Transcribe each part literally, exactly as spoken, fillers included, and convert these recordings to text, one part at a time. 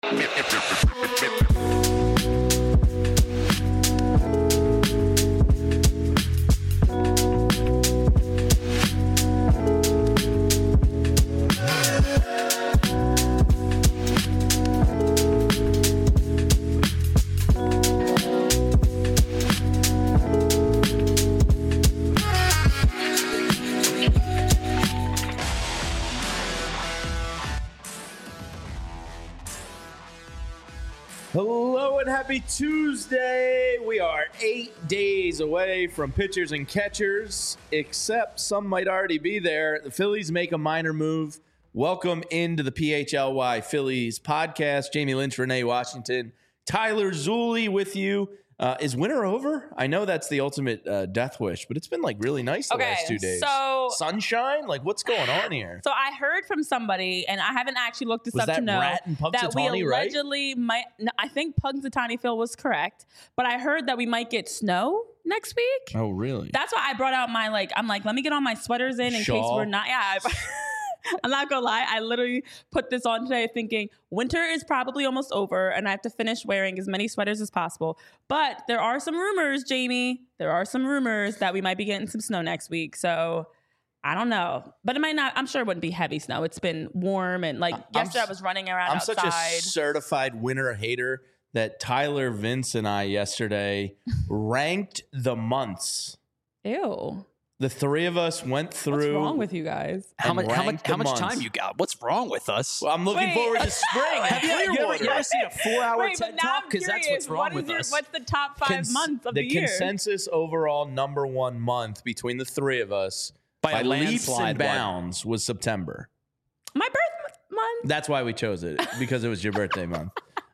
Hello and happy Tuesday. We are eight days away from pitchers and catchers, except some might already be there. The Phillies make a minor move. Welcome into the P H L Y Phillies podcast. Jamie Lynch, Renee Washington, Tyler Zulli with you. Uh, is winter over? I know that's the ultimate uh, death wish, but it's been like really nice the okay, last two days. So sunshine? Like what's going on here? So I heard from somebody, and I haven't actually looked this was up that to know Rat and that we Punxsutawney, allegedly right? might. No, I think Punxsutawney Phil was correct, but I heard that we might get snow next week. Oh, really? That's why I brought out my like. I'm like, let me get all my sweaters in in Shawl. case we're not. Yeah. I, I'm not gonna lie. I literally put this on today thinking winter is probably almost over and I have to finish wearing as many sweaters as possible. But there are some rumors, Jamie. There are some rumors that we might be getting some snow next week. So I don't know. But it might not. I'm sure it wouldn't be heavy snow. It's been warm and like I'm, yesterday I was running around I'm outside. such a certified winter hater that Tyler, Vince, and I yesterday ranked the months. Ew. The three of us went through. What's wrong with you guys? How much? How much? ranked How the much months. time you got? What's wrong with us? Well, I'm looking Wait. forward to spring. Have you, you, ever, Clearwater. you ever seen a four-hour Wait, but TED now talk? I'm Because that's curious. what's wrong What with is your, us. what's the top five Cons- months of the, the, year? consensus overall number one month between the three of us By a leaps landslide, and what? bounds was September. My birth month? That's why we chose it, because it was your birthday month.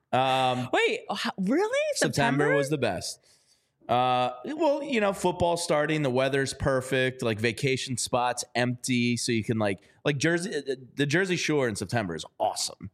Um, Wait, how- really? September was the best. Uh, well, you know, football starting, the weather's perfect, like vacation spots empty, so you can like like Jersey, the Jersey Shore in September is awesome.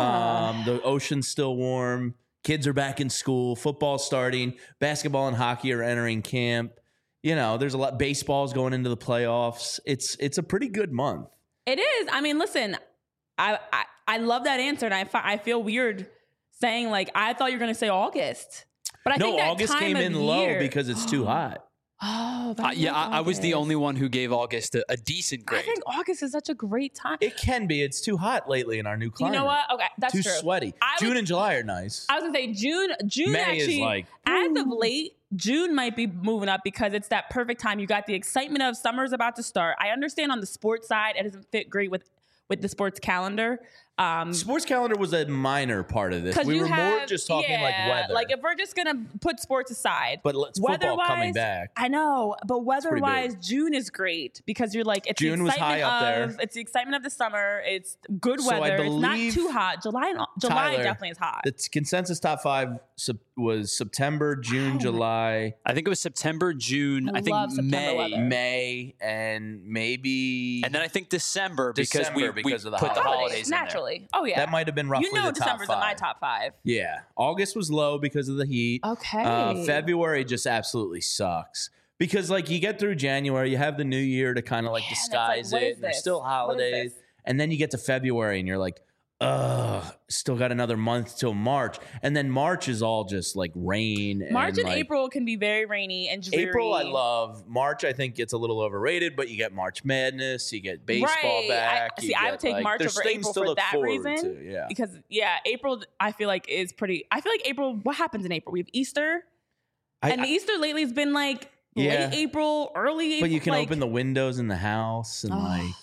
um, the ocean's still warm, kids are back in school, football starting, basketball and hockey are entering camp. You know, there's a lot. Baseball's going into the playoffs. It's it's a pretty good month. It is. I mean, listen, I I, I love that answer, and I fi- I feel weird saying like I thought you were going to say August. But I no, think that August time came of in year, low because it's too hot. Oh, but Uh, yeah, love I, I was the August. only one who gave August a, a decent grade. I think August is such a great time. It can be. It's too hot lately in our new You climate. know what? Okay, that's Too true. sweaty. I June would- and July are nice. I was gonna say June. June May is actually, like, as of late, June might be moving up because it's that perfect time. You got the excitement of summer's about to start. I understand on the sports side, it doesn't fit great with with the sports calendar. Um, Sports calendar was a minor part of this. Because We you were have, more just talking yeah, like weather. Like if we're just gonna put sports aside, but let's football coming back. I know, but pretty weather-wise, big. June is great because you're like it's June the was excitement high up there. of it's the excitement of the summer. It's good So I weather. It's not believe, too hot. July, and, July Tyler, definitely is hot. The t- consensus top five sep- was September, June, Wow. July, I think it was September, June. I I, think love September May, weather. May, and maybe and then I think December because December we, because we of the put the holidays. holidays in there. naturally. Oh yeah, that might have been roughly you know the top December's five. in my top five. Yeah, August was low because of the heat. Okay. Uh, February just absolutely sucks. Because like you get through January, you have the new year to kind of like Yeah, and it's disguise like, what it. is And there's this? still What is holidays. this? And then you get to February and you're like, ugh, still got another month till March. And then March is all just like rain. March and like, April can be very rainy and dreary. April I love. March I think gets a little overrated, but you get March Madness, you get baseball Right. back. I, you see, I get, would take like, March there's over things April to for look that forward reason. to, yeah. Because yeah, April I feel like is pretty. I feel like April. What happens in April? We have Easter, I- and I- the Easter lately has been like Yeah. late April, early April. But you can like, open the windows in the house and Oh. like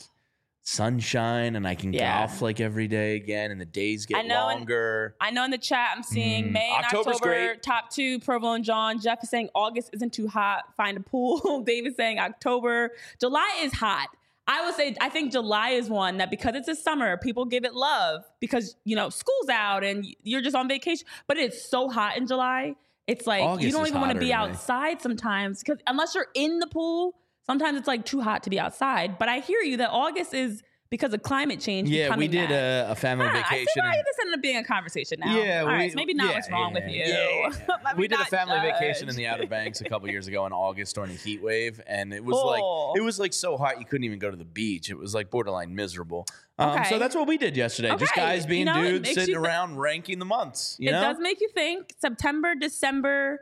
sunshine, and I can Yeah. golf like every day again, and the days get I know, and- longer. I know in the chat I'm seeing Mm, May and October's October great. top two, Provo and John. Jeff is saying August isn't too hot. Find a pool. Dave is saying October. July is hot. I would say I think July is one that because it's a summer, people give it love because you know school's out and you're just on vacation. But it's so hot in July. It's like August you don't is even want to hotter be to me. outside sometimes because unless you're in the pool, sometimes it's like too hot to be outside. But I hear you that August is because of climate change. Yeah, we becoming did that. a, a family Huh, I vacation. see why and- this ended up being a conversation now. Yeah, All we- right, so maybe not yeah, what's wrong yeah, with you. yeah. Let me we did a not family judge. vacation in the Outer Banks a couple years ago in August during a heat wave, and it was Oh. like it was like so hot you couldn't even go to the beach. It was like borderline miserable. Um, Okay. So that's what we did yesterday. Just Okay. guys being You know, it dudes makes sitting you th- around ranking the months. You It know, does make you think. September, December,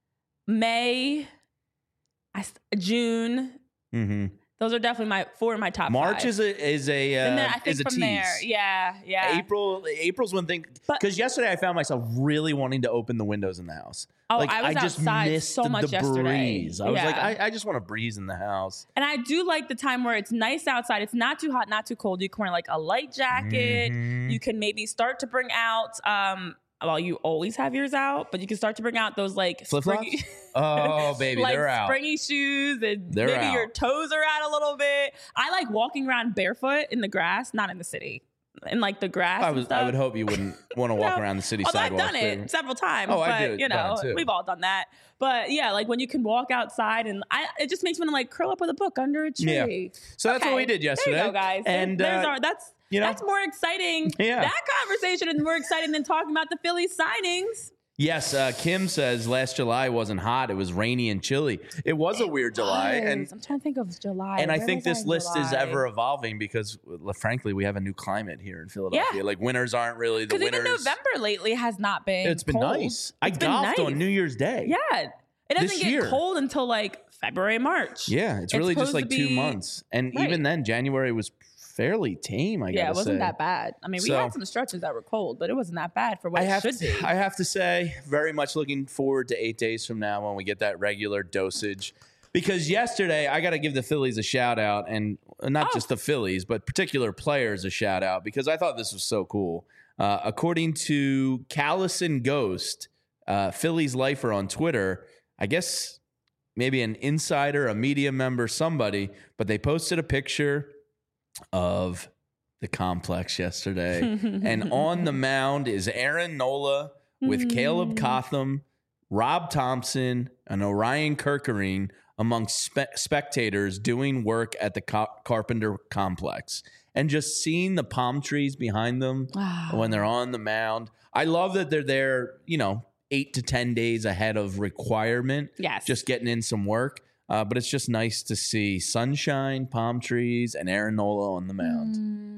May, I s June. mm-hmm. Those are definitely my four of my top March five. is a is a uh, and then I think is a from tease. there, yeah, yeah. April April's one thing But- because yesterday I found myself really wanting to open the windows in the house. Oh, like I was just outside missed so much the yesterday. breeze. I was like, Yeah. I, I just want to breeze in the house. And I do like the time where it's nice outside. It's not too hot, not too cold. You can wear like a light jacket. Mhm. You can maybe start to bring out. Um, well, you always have yours out, but you can start to bring out those like Flip-flops? springy- Oh baby, like they're out. springy shoes, and They're maybe out. your toes are out a little bit. I like walking around barefoot in the grass, not in the city, in like the grass. I and was stuff. I would hope you wouldn't want to walk No. around the city Although I've sidewalks. done it several times, Oh, but I do. you Done know, it too. we've all done that. But yeah, like when you can walk outside, and I, it just makes me want to like curl up with a book under a Yeah. tree. So that's what Okay. we did yesterday. There you go, guys. And There's uh, our, that's you know, that's more exciting. Yeah. That conversation is more exciting than talking about the Phillies signings. yes, uh, Kim says last July wasn't hot. It was rainy and chilly. It was a weird July, Was. and I'm trying to think of July. and I Where think was this in list is July? ever evolving because, well, frankly, we have a new climate here in Philadelphia. Like winters aren't really the Because even winters. November lately has not been. It's been cold. nice. I It's been golfed nice. on New Year's Day. Yeah, it doesn't This get year. cold until like February, March. Yeah, it's really just supposed like to two be- months, and Right. even then, January was fairly tame. I Yeah, gotta it wasn't say. that bad. I mean, we So- had some stretches that were cold, but it wasn't that bad for what I it have should to, be. I have to say, very much looking forward to eight days from now when we get that regular dosage. Because yesterday, I got to give the Phillies a shout out, and not Oh. just the Phillies, but particular players a shout out because I thought this was so cool. Uh, according to Callison Ghost, uh, Phillies lifer on Twitter, I guess maybe an insider, a media member, somebody, but they posted a picture of the complex yesterday. And on the mound is Aaron Nola with Caleb Cotham, Rob Thompson, and Orion Kirkering among spe- spectators doing work at the Ca- Carpenter complex. And just seeing the palm trees behind them when they're on the mound. I love that they're there, you know, eight to ten days ahead of requirement. Yes. Just getting in some work. Uh, but it's just nice to see sunshine, palm trees, and Aaron Nola on the mound.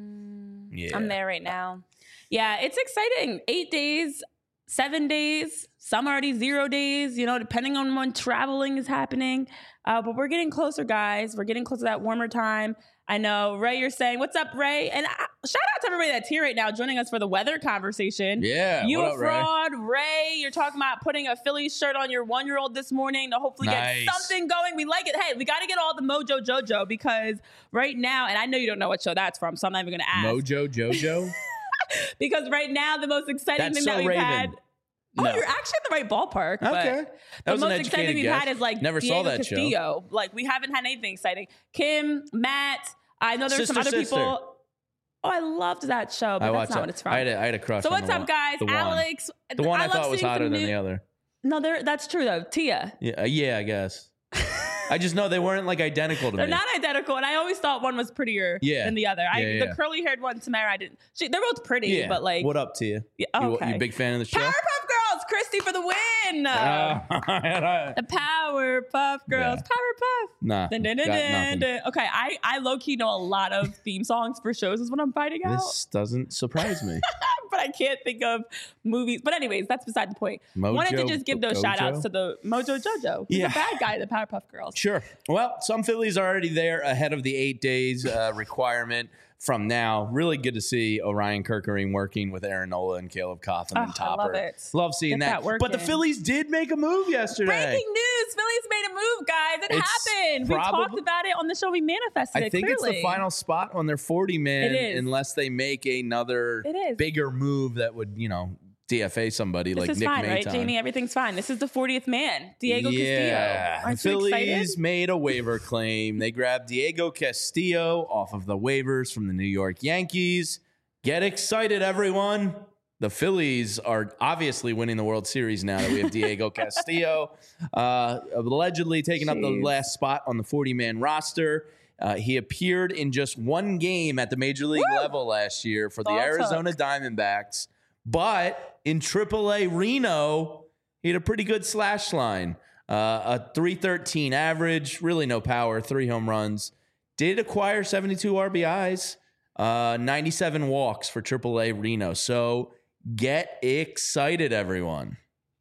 Yeah. I'm there right now. Yeah, it's exciting. Eight days, seven days, some already zero days, you know, depending on when traveling is happening. Uh, but we're getting closer, guys. We're getting closer to that warmer time. I know, Ray, you're saying, what's up, Ray? And uh, shout out to everybody that's here right now joining us for the weather conversation. Yeah. You what a up, Ray? fraud, Ray. You're talking about putting a Phillies shirt on your one-year-old this morning to hopefully Nice. get something going. We like it. Hey, we got to get all the Mojo Jojo because right now, and I know you don't know what show that's from, so I'm not even going to ask. Mojo Jojo? Because right now, the most exciting That's thing so that we've Raven. had. Oh, No. you're actually in the right ballpark. but Okay. That the was an most exciting educated thing we've guess. had is like Never Diego saw that show. Castillo. Like we haven't had anything exciting. Kim, Matt. I know there's some Sister, other Sister. people. Oh, I loved that show, but I that's watched not that. what it's from. I had a, I had a crush So on what's the up, one- guys? the one. Alex. The one I, love thought was seeing hotter some than new- the other. No, they're- that's true though. Tia. Yeah, uh, yeah, I guess. I just know they weren't like identical to They're me. not identical, and I always thought one was prettier Yeah. than the other. I, Yeah, yeah. The curly-haired one, Tamara, I didn't. She, they're both pretty, yeah. but like, what up to you? yeah, You, okay. you a big fan of the show? Powerpuff Girls, Christy for the win. Uh, The Powerpuff Girls, Yeah. Powerpuff. nah, Dun, dun, dun, got dun, nothing. dun. Okay, I, I low key know a lot of theme songs for shows, is what I'm finding out. This doesn't surprise me. But I can't think of movies. But anyways, that's beside the point. Wanted to Mojo just give those Gojo? shout outs to the Mojo Jojo. He's Yeah. a bad guy, the Powerpuff Girls. Sure. Well, some Phillies are already there ahead of the eight days uh, requirement from now. Really good to see Orion Kirkering working with Aaron Nola and Caleb Cotham and Oh, I Topper. love it. Love seeing Get that. that work but the in. Phillies did make a move yesterday. Breaking news. Phillies made a move, guys. It It's happened. We probab- talked about it on the show. We manifested I it think it's clearly. the final spot on their forty man It is. unless they make another It is. bigger move that would, you know, D F A somebody This like is Nick fine, right, Maton. Jamie? Everything's fine. This is the fortieth man, Diego yeah. Castillo. Aren't the you Phillies excited? made a waiver claim. They grabbed Diego Castillo off of the waivers from the New York Yankees. Get excited, everyone. The Phillies are obviously winning the World Series now that we have Diego Castillo uh, allegedly taking up the Jeez. last spot on the forty man roster. Uh, he appeared in just one game at the major league Woo! level last year for the All Arizona took. Diamondbacks. But in triple A Reno, he had a pretty good slash line. Uh, a three thirteen average, really no power, three home runs. Did acquire seventy-two R B Is, uh, ninety-seven walks for triple A Reno. So get excited, everyone.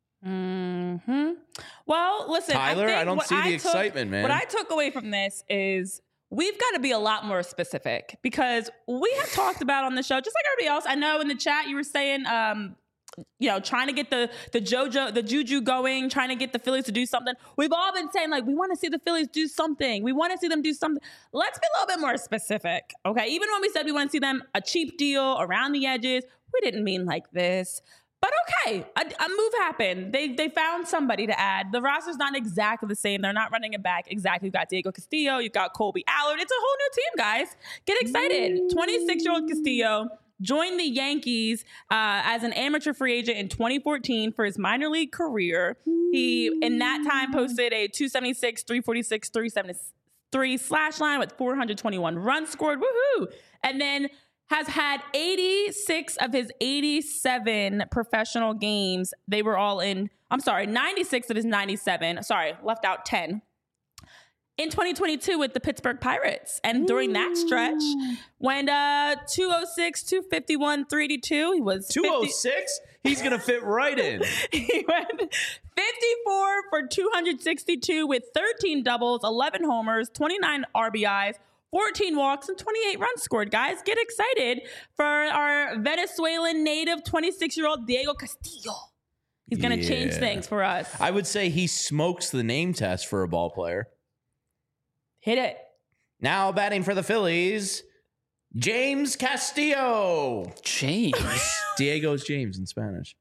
Hmm. Well, listen, Tyler, I, think I don't what see the took- excitement, man. What I took away from this is we've got to be a lot more specific because we have talked about on the show, just like everybody else. I know in the chat you were saying, um, you know, trying to get the the JoJo, the juju going, trying to get the Phillies to do something. We've all been saying, like, we want to see the Phillies do something. We want to see them do something. Let's be a little bit more specific, okay? Even when we said we want to see them a cheap deal around the edges, we didn't mean like this. But okay, a, a move happened. They they found somebody to add. The roster's not exactly the same. They're not running it back exactly. You've got Diego Castillo. You've got Colby Allard. It's a whole new team, guys. Get excited. twenty-six-year-old Castillo joined the Yankees uh, as an amateur free agent in twenty fourteen for his minor league career. He, in that time, posted a two seventy-six, three forty-six, three seventy-three slash line with four hundred twenty-one runs scored. Woohoo! And then has had eighty-six of his eighty-seven professional games. They were all in, I'm sorry, ninety-six of his ninety-seven. Sorry, left out ten. In twenty twenty-two with the Pittsburgh Pirates. And during that stretch, went uh, two oh six, two fifty-one, three eighty-two. He was two oh six? He's going to fit right in. He went fifty-four for two hundred sixty-two with thirteen doubles, eleven homers, twenty-nine R B Is, fourteen walks, and twenty-eight runs scored. Guys, get excited for our Venezuelan native twenty-six-year-old Diego Castillo. He's going to Yeah. change things for us. I would say he smokes the name test for a ball player. Hit it. Now batting for the Phillies, James Castillo. James. Diego's James in Spanish.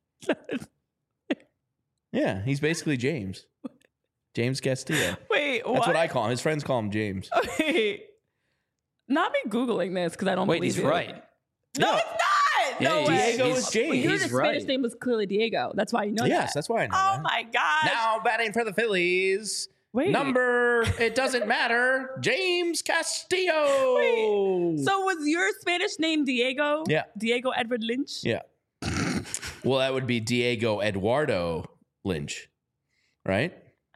Yeah, he's basically James. James Castillo. Wait, what? That's what I call him. His friends call him James. Wait. Not me Googling this because I don't Wait, believe he's you. right. No, Yeah. it's not. Yeah, No he's- way. Diego he's- is James. You knew He's the Spanish right. name was clearly Diego. That's why you know Yes, that. that's why I know Oh that. my gosh. Now batting for the Phillies, Wait. number, it doesn't matter, James Castillo. Wait. So was your Spanish name Diego? Yeah. Diego Edward Lynch? Yeah. Well, that would be Diego Eduardo Lynch, right?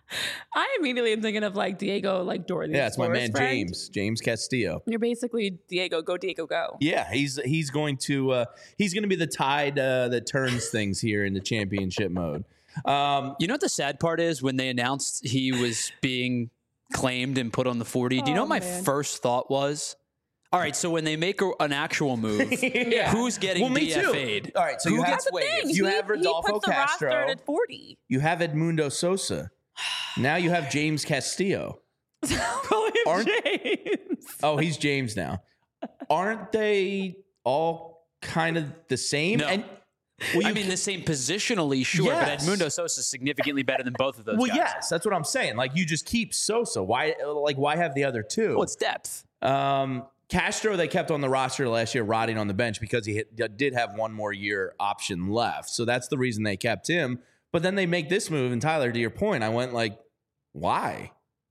I immediately am thinking of like Diego, like Dora the Yeah, it's my Explorer's man friend. James, James Castillo. You're basically Diego, go Diego, go. Yeah, he's he's going to uh, he's going to be the tide uh, that turns things here in the championship mode. Um, You know what the sad part is? When they announced he was being claimed and put on the forty, do you know Oh, what my man. first thought was? All right, so when they make a, an actual move, Yeah. who's getting Well, me D F too. A'd? All right, so Who you have- gets That's the waived? thing. You he, have Rodolfo he puts Castro. the roster at forty. you have Edmundo Sosa. Now you have James Castillo. Call him Aren't- James. Oh, he's James now. Aren't they all kind of the same? No. And well, I you mean, can- the same positionally, sure, Yes. but Edmundo Sosa is significantly better than both of those well, guys. yes, that's what I'm saying. Like you just keep Sosa. Why, like, why have the other two? Well, it's depth. Um, Castro, they kept on the roster last year, rotting on the bench because he hit, did have one more year option left. So that's the reason they kept him. But then they make this move, and Tyler, to your point, I went like, why?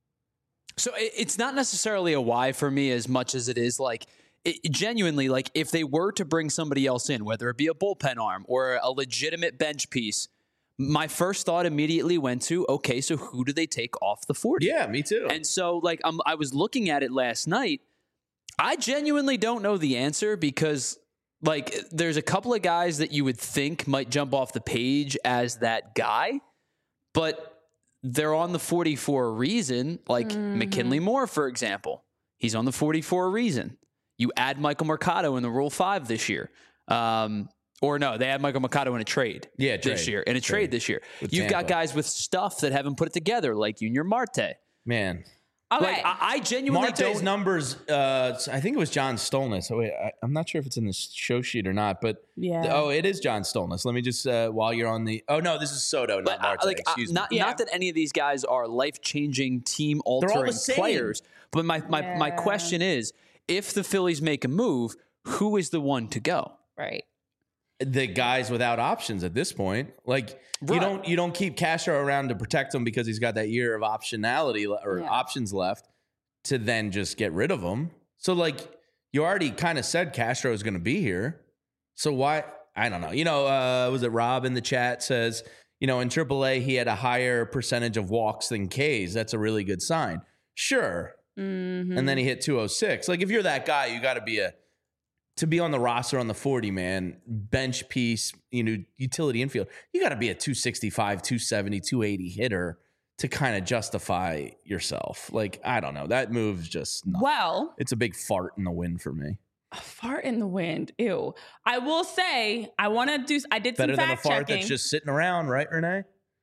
So it- it's not necessarily a why for me as much as it is like it, genuinely like if they were to bring somebody else in, whether it be a bullpen arm or a legitimate bench piece, my first thought immediately went to, okay, so who do they take off the forty? Yeah, me too. And so like I'm, I was looking at it last night. I genuinely don't know the answer because like there's a couple of guys that you would think might jump off the page as that guy, but they're on the forty for a reason, like Mm-hmm. McKinley Moore, for example. He's on the forty for a reason. You add Michael Mercado in the Rule five this year. Um, or no, they had Michael Mercado in a trade Yeah, this trade. year, in a trade, Trade. this year. With You've got Tampa. guys with stuff that haven't put it together, like Junior Marte. Man, Okay. Like, I, I genuinely Marte's don't numbers, uh, I think it was John Stolness. Oh, wait, I, I'm not sure if it's in the show sheet or not, but Yeah. oh, it is John Stolness. Let me just, uh, while you're on the, oh, no, this is Soto, not But, uh, Marte. like, uh, Excuse me. not Yeah. not that any of these guys are life changing, team all the altering same. players. But my my, my Yeah. question is, if the Phillies make a move, who is the one to go? right. The guys without options at this point. Like you Right. don't you don't keep Castro around to protect him because he's got that year of optionality le- or Yeah. options left. to then just get rid of him. So, like, you already kind of said Castro is going to be here. So why? I don't know. You know, uh, was it Rob in the chat says, you know, in triple A, he had a higher percentage of walks than Ks. That's a really good sign. Sure. Mm-hmm. And then he hit two oh six. Like, if you're that guy, you got to be a, to be on the roster on the forty, man, bench piece, you know, utility infield, you got to be a two sixty-five, two seventy, two eighty hitter to kind of justify yourself. Like, I don't know. That move's just not, Well, it's a big fart in the wind for me. a fart in the wind. Ew. I will say, I want to do, I did Better some than a fact fart checking. that's just sitting around, right, Renee?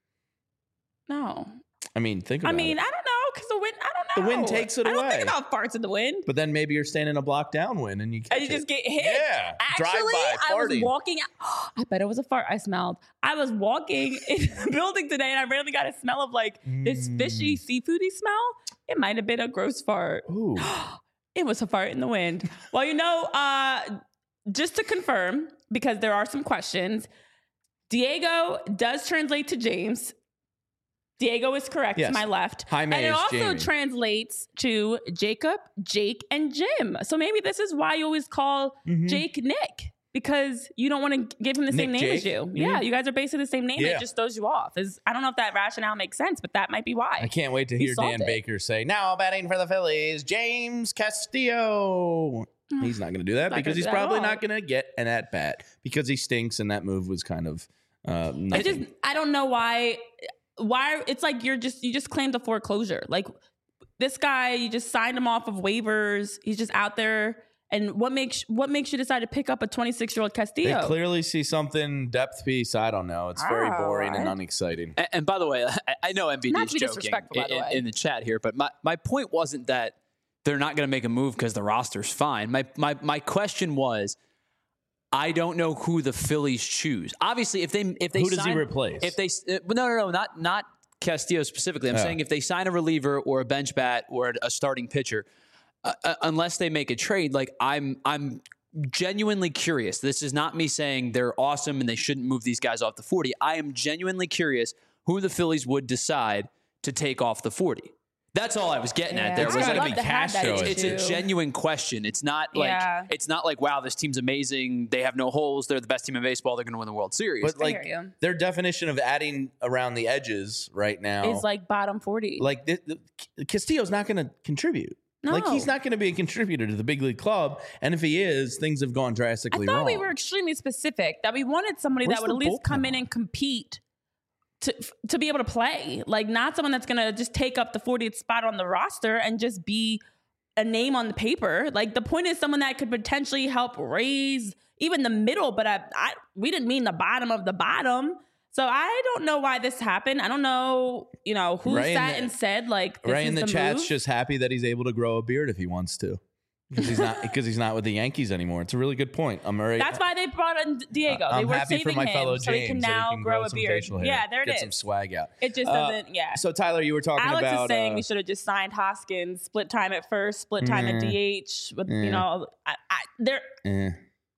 No. I mean, think about I mean, it. I don't know because the wind, I don't The know. wind takes it I don't away. think about farts in the wind. But then maybe you're staying in a block downwind and you catch And you it. just get hit. Yeah. Actually, Drive-by I was farting. walking out. I bet it was a fart I smelled. I was walking in the building today and I randomly got a smell of like this fishy, seafoody smell. It might have been a gross fart. Ooh. It was a fart in the wind. Well, you know, uh, just to confirm, because there are some questions, Diego does translate to James. Diego is correct Yes. to my left. Jaime and it is also Jamie. translates to Jacob, Jake, and Jim. So maybe this is why you always call Mhm. Jake Nick, because you don't want to give him the same Nick name as Jake? you. Mhm. Yeah, you guys are basically the same name. Yeah. It just throws you off. Is I don't know if that rationale makes sense, but that might be why. I can't wait to He hear solved Dan it. Baker say, now batting for the Phillies, James Castillo. He's not going to do that Not because gonna he's do that at probably all. not going to get an at bat because he stinks and that move was kind of uh, nothing. I just I don't know why why it's like you're just you just claimed a foreclosure. Like this guy, you just signed him off of waivers. He's just out there. And what makes what makes you decide to pick up a twenty-six year old They Castillo? clearly see something depth piece. I don't know. It's very Oh, boring and I- unexciting. And, and by the way, I, I know M V D Not is to be joking disrespectful, by the in, way. in the chat here, but my, my point wasn't that they're not going to make a move because the roster's fine. My, my my question was, I don't know who the Phillies choose. Obviously, if they if they Who does he sign- replace? If they uh, no no no not not Castillo specifically. I'm Oh. saying if they sign a reliever or a bench bat or a starting pitcher, uh, uh, unless they make a trade, like I'm I'm genuinely curious. This is not me saying they're awesome and they shouldn't move these guys off the forty. I am genuinely curious who the Phillies would decide to take off the forty. That's all I was getting at there. It's was gotta like, be love to have that Castro. it's issue. a genuine question. It's not like Yeah. it's not like wow, this team's amazing. They have no holes. They're the best team in baseball. They're going to win the World Series. But I like hear you. their definition of adding around the edges right now, Is like bottom forty. like the, the, Castillo's not going to contribute. Like No. he's not going to be a contributor to the big league club, and if he is, things have gone I drastically thought wrong. we were extremely specific that we wanted somebody Where's that would the at least come bullpen in on? and compete to to be able to play. Like not someone that's gonna just take up the fortieth spot on the roster and just be a name on the paper. Like the point is someone that could potentially help raise even the middle, but I, I we didn't mean the bottom of the bottom. So I don't know why this happened. I don't know, you know, who Ray in sat the- and said like this Ray is in the, the chat's move. just happy that he's able to grow a beard if he wants to, because he's not because he's not with the Yankees anymore. It's a really good point. I'm very. That's why they brought in Diego. I'm they were happy saving for my him fellow so James he can that he now can grow a some beard. facial hair, Yeah, there it get is. some swag out. It just Uh, doesn't. Yeah. So Tyler, you were talking Alex about is saying uh, we should have just signed Hoskins, split time at first, split time at Mm. D H. With Mm. you know, I, I, there. eh,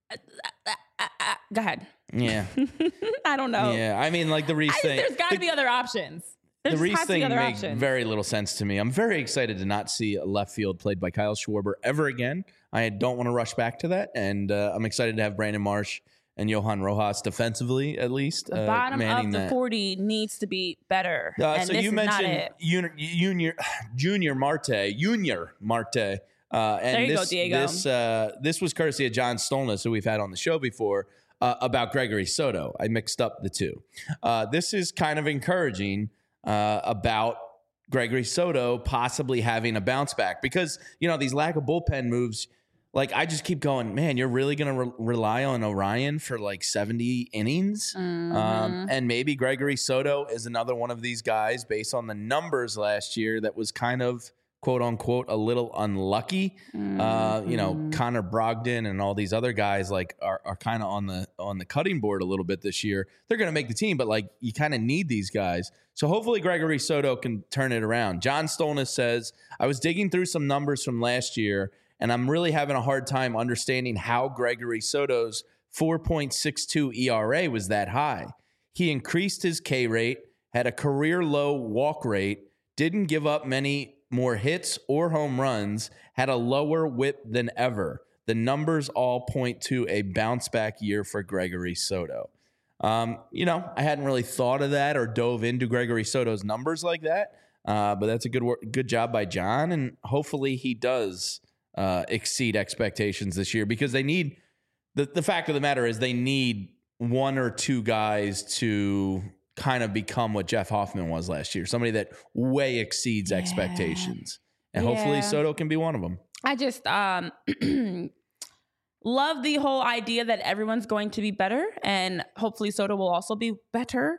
I, I, I, go ahead. yeah, I don't know. yeah. I mean, like the Reese I thing. think there's got to the- be other options. There the just Reese has to be thing other makes options. very little sense to me. I'm very excited to not see a left field played by Kyle Schwarber ever again. I don't want to rush back to that, and uh, I'm excited to have Brandon Marsh and Johan Rojas defensively, at least. the uh, bottom manning of the that. forty needs to be better. Uh, and so this you is not mentioned it. Junior, Junior, Junior Marte, Junior Marte. Uh, and There you go, this, Diego. This, uh, this was courtesy of John Stolness, who we've had on the show before, uh, about Gregory Soto. I mixed up the two. Uh, this is kind of encouraging uh, about Gregory Soto possibly having a bounce back because, you know, these lack of bullpen moves, like I just keep going, man, you're really going to re- rely on Orion for like seventy innings? Mm-hmm. Um, and maybe Gregory Soto is another one of these guys based on the numbers last year that was kind of quote unquote a little unlucky. Uh, you know, Mhm. Connor Brogdon and all these other guys like are, are kind of on the on the cutting board a little bit this year. They're going to make the team, but like you kind of need these guys. So hopefully Gregory Soto can turn it around. John Stolness says, I was digging through some numbers from last year, and I'm really having a hard time understanding how Gregory Soto's four point six two E R A was that high. He increased his K rate, had a career low walk rate, didn't give up many more hits or home runs, had a lower whip than ever. The numbers all point to a bounce back year for Gregory Soto. Um, you know, I hadn't really thought of that or dove into Gregory Soto's numbers like that, uh, but that's a good work, good job by John, and hopefully he does uh, exceed expectations this year, because they need the the fact of the matter is they need one or two guys to kind of become what Jeff Hoffman was last year, somebody that way exceeds yeah. expectations, and yeah. hopefully Soto can be one of them. I just um. love the whole idea that everyone's going to be better, and hopefully Soto will also be better.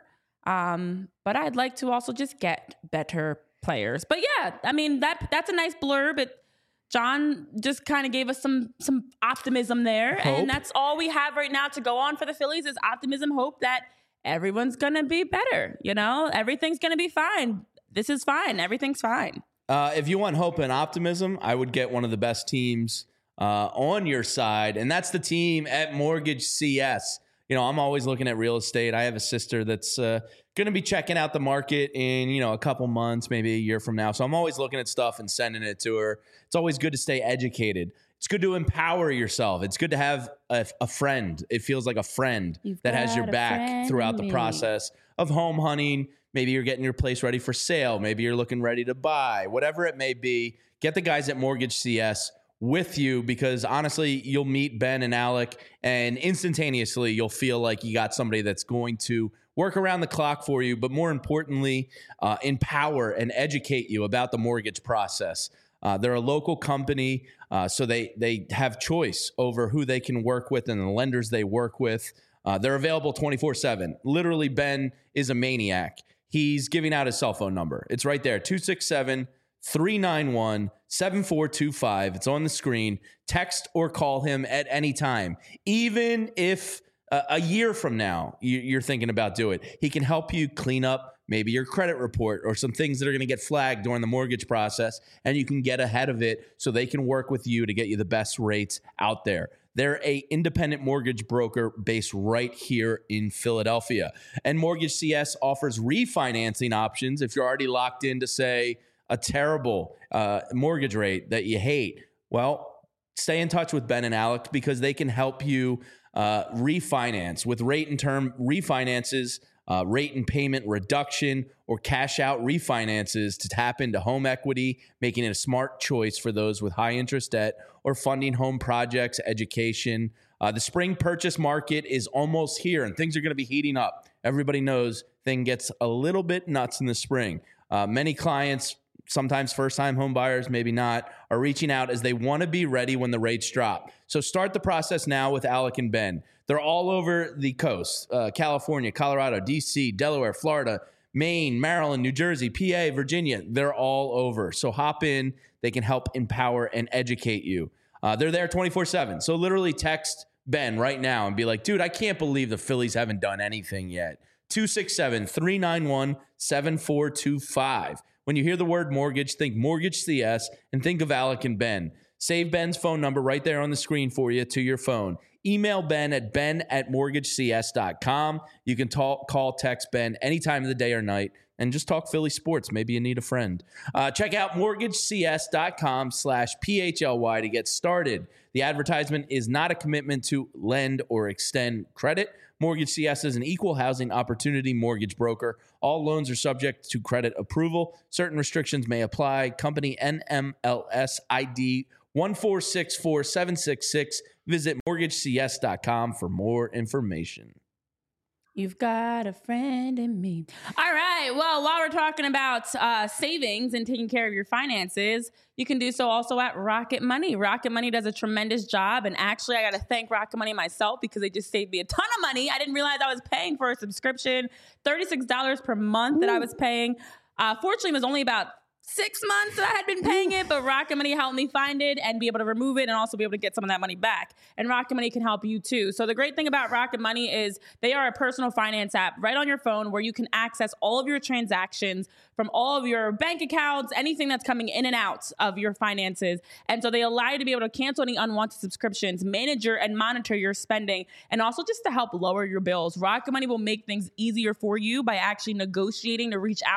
Um, but I'd like to also just get better players. But yeah, I mean, that that's a nice blurb. It, John just kind of gave us some some optimism there. Hope. And that's all we have right now to go on for the Phillies is optimism, hope that everyone's going to be better. You know, everything's going to be fine. This is fine. Everything's fine. Uh, if you want hope and optimism, I would get one of the best teams Uh, on your side, and that's the team at Mortgage C S. You know, I'm always looking at real estate. I have a sister that's uh, going to be checking out the market in, you know, a couple months, maybe a year from now. So I'm always looking at stuff and sending it to her. It's always good to stay educated. It's good to empower yourself. It's good to have a, a friend. It feels like a friend You've that has your back throughout the process of home hunting. Maybe you're getting your place ready for sale. Maybe you're looking ready to buy. Whatever it may be, get the guys at Mortgage C S with you, because honestly, you'll meet Ben and Alec, and instantaneously you'll feel like you got somebody that's going to work around the clock for you, but more importantly, uh, empower and educate you about the mortgage process. Uh, they're a local company, uh, so they they have choice over who they can work with and the lenders they work with. Uh, they're available twenty-four seven. Literally, Ben is a maniac. He's giving out his cell phone number. It's right there, two six seven, three nine one, seven four two five. It's on the screen. Text or call him at any time. Even if uh, a year from now you, you're thinking about doing it, he can help you clean up maybe your credit report or some things that are going to get flagged during the mortgage process, and you can get ahead of it so they can work with you to get you the best rates out there. They're a independent mortgage broker based right here in Philadelphia. And Mortgage C S offers refinancing options if you're already locked into, say, a terrible uh, mortgage rate that you hate. Well, stay in touch with Ben and Alec, because they can help you uh, refinance with rate and term refinances, uh, rate and payment reduction, or cash out refinances to tap into home equity, making it a smart choice for those with high interest debt or funding home projects, education. Uh, the spring purchase market is almost here, and things are going to be heating up. Everybody knows thing gets a little bit nuts in the spring. Uh, many clients, sometimes first-time home buyers, maybe not, are reaching out as they want to be ready when the rates drop. So start the process now with Alec and Ben. They're all over the coast, uh, California, Colorado, D C, Delaware, Florida, Maine, Maryland, New Jersey, P A, Virginia. They're all over. So hop in. They can help empower and educate you. Uh, they're there twenty-four seven. So literally text Ben right now and be like, dude, I can't believe the Phillies haven't done anything yet. two six seven, three nine one, seven four two five. When you hear the word mortgage, think Mortgage C S and think of Alec and Ben. Save Ben's phone number right there on the screen for you to your phone. Email Ben at ben at mortgage c s dot com. You can talk, call, text Ben any time of the day or night, and just talk Philly sports. Maybe you need a friend. Uh, check out mortgage c s dot com slash P H L Y to get started. The advertisement is not a commitment to lend or extend credit. Mortgage C S is an equal housing opportunity mortgage broker. All loans are subject to credit approval. Certain restrictions may apply. Company N M L S I D one four six four seven six six. Visit mortgage c s dot com for more information. You've got a friend in me. All right. Well, while we're talking about uh, savings and taking care of your finances, you can do so also at Rocket Money. Rocket Money does a tremendous job. And actually, I got to thank Rocket Money myself, because they just saved me a ton of money. I didn't realize I was paying for a subscription, thirty-six dollars per month that I was paying. Uh, fortunately, it was only about six months that I had been paying it, but Rocket Money helped me find it and be able to remove it and also be able to get some of that money back. And Rocket Money can help you too. So the great thing about Rocket Money is they are a personal finance app right on your phone where you can access all of your transactions from all of your bank accounts, anything that's coming in and out of your finances. And so they allow you to be able to cancel any unwanted subscriptions, manage your and monitor your spending, and also just to help lower your bills. Rocket Money will make things easier for you by actually negotiating to reach out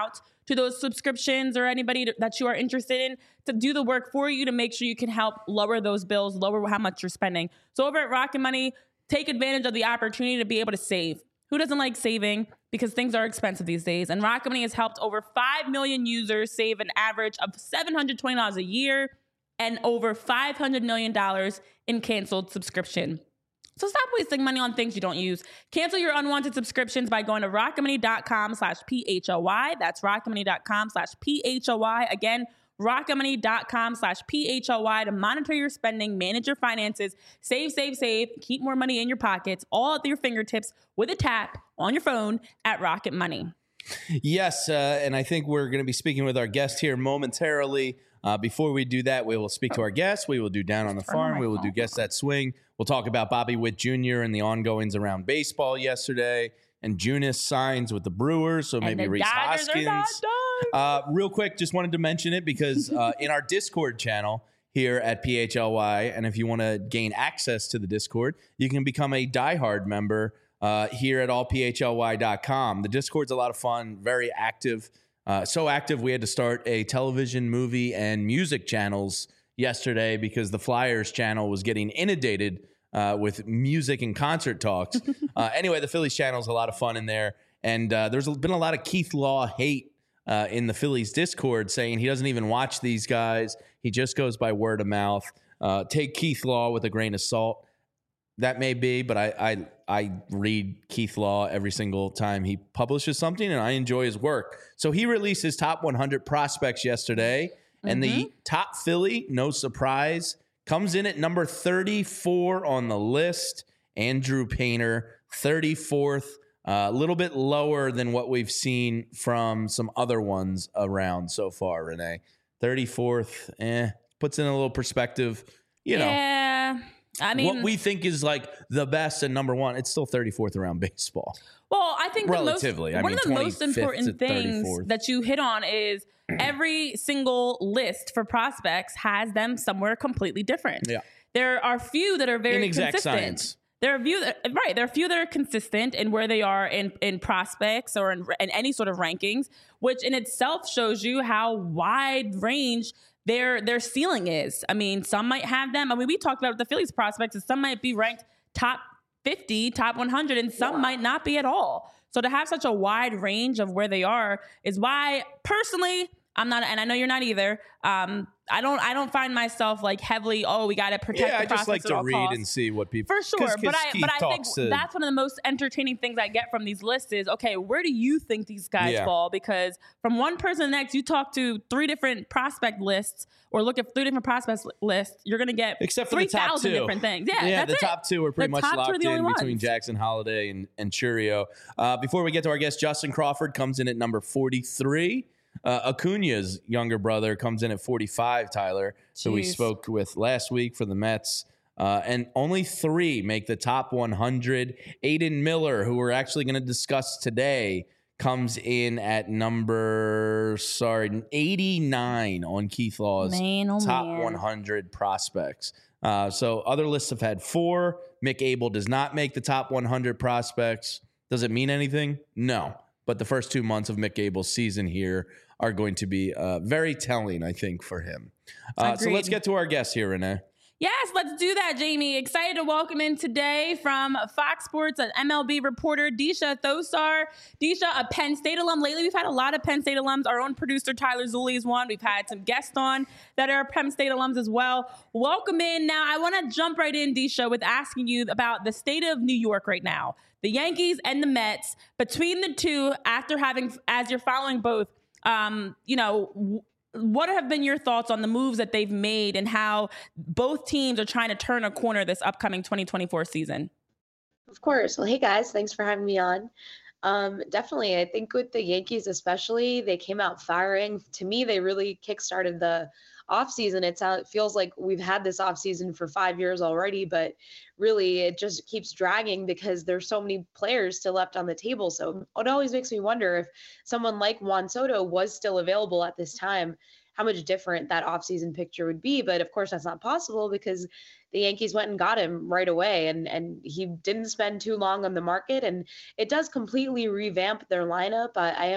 to those subscriptions or anybody to, that you are interested in to do the work for you to make sure you can help lower those bills, lower how much you're spending. So over at Rocket Money, take advantage of the opportunity to be able to save. Who doesn't like saving? Because things are expensive these days. And Rocket Money has helped over five million users save an average of seven hundred twenty dollars a year and over five hundred million dollars in canceled subscription. So stop wasting money on things you don't use. Cancel your unwanted subscriptions by going to rocketmoney.com slash P-H-O-Y. That's rocketmoney.com slash P-H-O-Y. Again, rocketmoney.com slash P-H-O-Y to monitor your spending, manage your finances, save, save, save, keep more money in your pockets, all at your fingertips with a tap on your phone at Rocket Money. Yes, uh, and I think we're going to be speaking with our guest here momentarily. Uh, before we do that, we will speak to our guests. We will do Down on the Farm. We will do Guess That Swing. We'll talk about Bobby Witt Junior and the ongoings around baseball yesterday. And Junis signs with the Brewers, so maybe Rhys Hoskins. Uh, real quick, just wanted to mention it because uh, in our Discord channel here at P H L Y, and if you want to gain access to the Discord, you can become a diehard member uh, here at all P H L Y dot com. The Discord's a lot of fun, very active. Uh, so active, we had to start a television, movie, and music channels yesterday because the Flyers channel was getting inundated uh, with music and concert talks. uh, anyway, the Phillies channel is a lot of fun in there. And uh, there's been a lot of Keith Law hate uh, in the Phillies Discord saying he doesn't even watch these guys. He just goes by word of mouth. Uh, take Keith Law with a grain of salt. That may be, but I, I I read Keith Law every single time he publishes something, and I enjoy his work. So he released his top one hundred prospects yesterday, mm-hmm. and the top Philly, no surprise, comes in at number thirty-four on the list. Andrew Painter, thirty-fourth, a uh, little bit lower than what we've seen from some other ones around so far, Renee. thirty-fourth, eh, puts in a little perspective, you know. Yeah. I mean, what we think is like the best and number one, it's still thirty-fourth around baseball. Well, I think relatively, the most, I one mean, of the most important things that you hit on is every single list for prospects has them somewhere completely different. Yeah. There are few that are very Inexact consistent. Science. There are few that, right. There are few that are consistent in where they are in, in prospects or in, in any sort of rankings, which in itself shows you how wide range their their ceiling is. I mean, some might have them. I mean, we talked about the Phillies prospects, and some might be ranked top fifty, top one hundred, and some yeah. might not be at all. So to have such a wide range of where they are is why, personally, I'm not, and I know you're not either. Um, I don't, I don't find myself like heavily. Oh, we got to protect. Yeah, the I just like to read costs. and see what people for sure. Cause, cause but I, Keith but I think to, that's one of the most entertaining things I get from these lists is okay, where do you think these guys yeah. fall? Because from one person to the next, you talk to three different prospect lists or look at three different prospects lists, you're gonna get except for three the top thousand two different things. Yeah, yeah. that's the it. top two are pretty the much locked in between ones. Jackson Holiday and and Churio. Uh, before we get to our guest, Justin Crawford comes in at number forty-three. Uh, Acuna's younger brother comes in at forty-five, Tyler, who we spoke with last week for the Mets. Uh, and only three make the top one hundred. Aiden Miller, who we're actually going to discuss today, comes in at number, sorry, eighty-nine on Keith Law's man, oh top man. one hundred prospects. Uh, so other lists have had four. Mick Abel does not make the top one hundred prospects. Does it mean anything? No. But the first two months of Mick Abel's season here are going to be uh, very telling, I think, for him. Uh, so let's get to our guest here, Renee. Yes, let's do that, Jamie. Excited to welcome in today from Fox Sports, an M L B reporter, Disha Thosar. Disha, a Penn State alum. Lately, we've had a lot of Penn State alums. Our own producer, Tyler Zulli, is one. We've had some guests on that are Penn State alums as well. Welcome in. Now, I want to jump right in, Disha, with asking you about the state of New York right now. The Yankees and the Mets, between the two, after having, as you're following both, um, you know, w- what have been your thoughts on the moves that they've made and how both teams are trying to turn a corner this upcoming twenty twenty-four season? Of course. Well, hey guys, thanks for having me on. Um, definitely. I think with the Yankees, especially, they came out firing. To me, they really kickstarted the offseason. It's how it feels like we've had this offseason for five years already, but really it just keeps dragging because there's so many players still left on the table. So it always makes me wonder if someone like Juan Soto was still available at this time, how much different that offseason picture would be. But of course, that's not possible because the Yankees went and got him right away, and, and he didn't spend too long on the market. And it does completely revamp their lineup. I, I am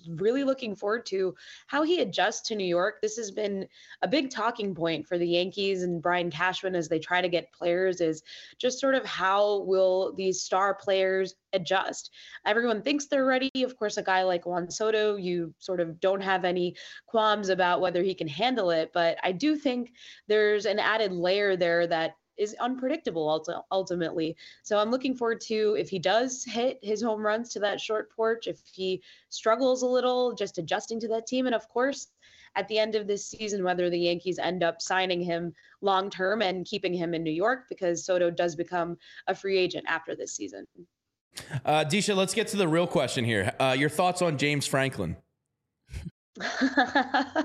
really looking forward to how he adjusts to New York. This has been a big talking point for the Yankees and Brian Cashman as they try to get players, is just sort of how will these star players adjust. Everyone thinks they're ready. Of course, a guy like Juan Soto, you sort of don't have any qualms about whether he can handle it. But I do think there's an added layer there that is unpredictable ultimately. So I'm looking forward to if he does hit his home runs to that short porch, if he struggles a little, just adjusting to that team. And of course, at the end of this season, whether the Yankees end up signing him long term and keeping him in New York, because Soto does become a free agent after this season. Uh, Disha, let's get to the real question here. Uh, your thoughts on James Franklin? uh,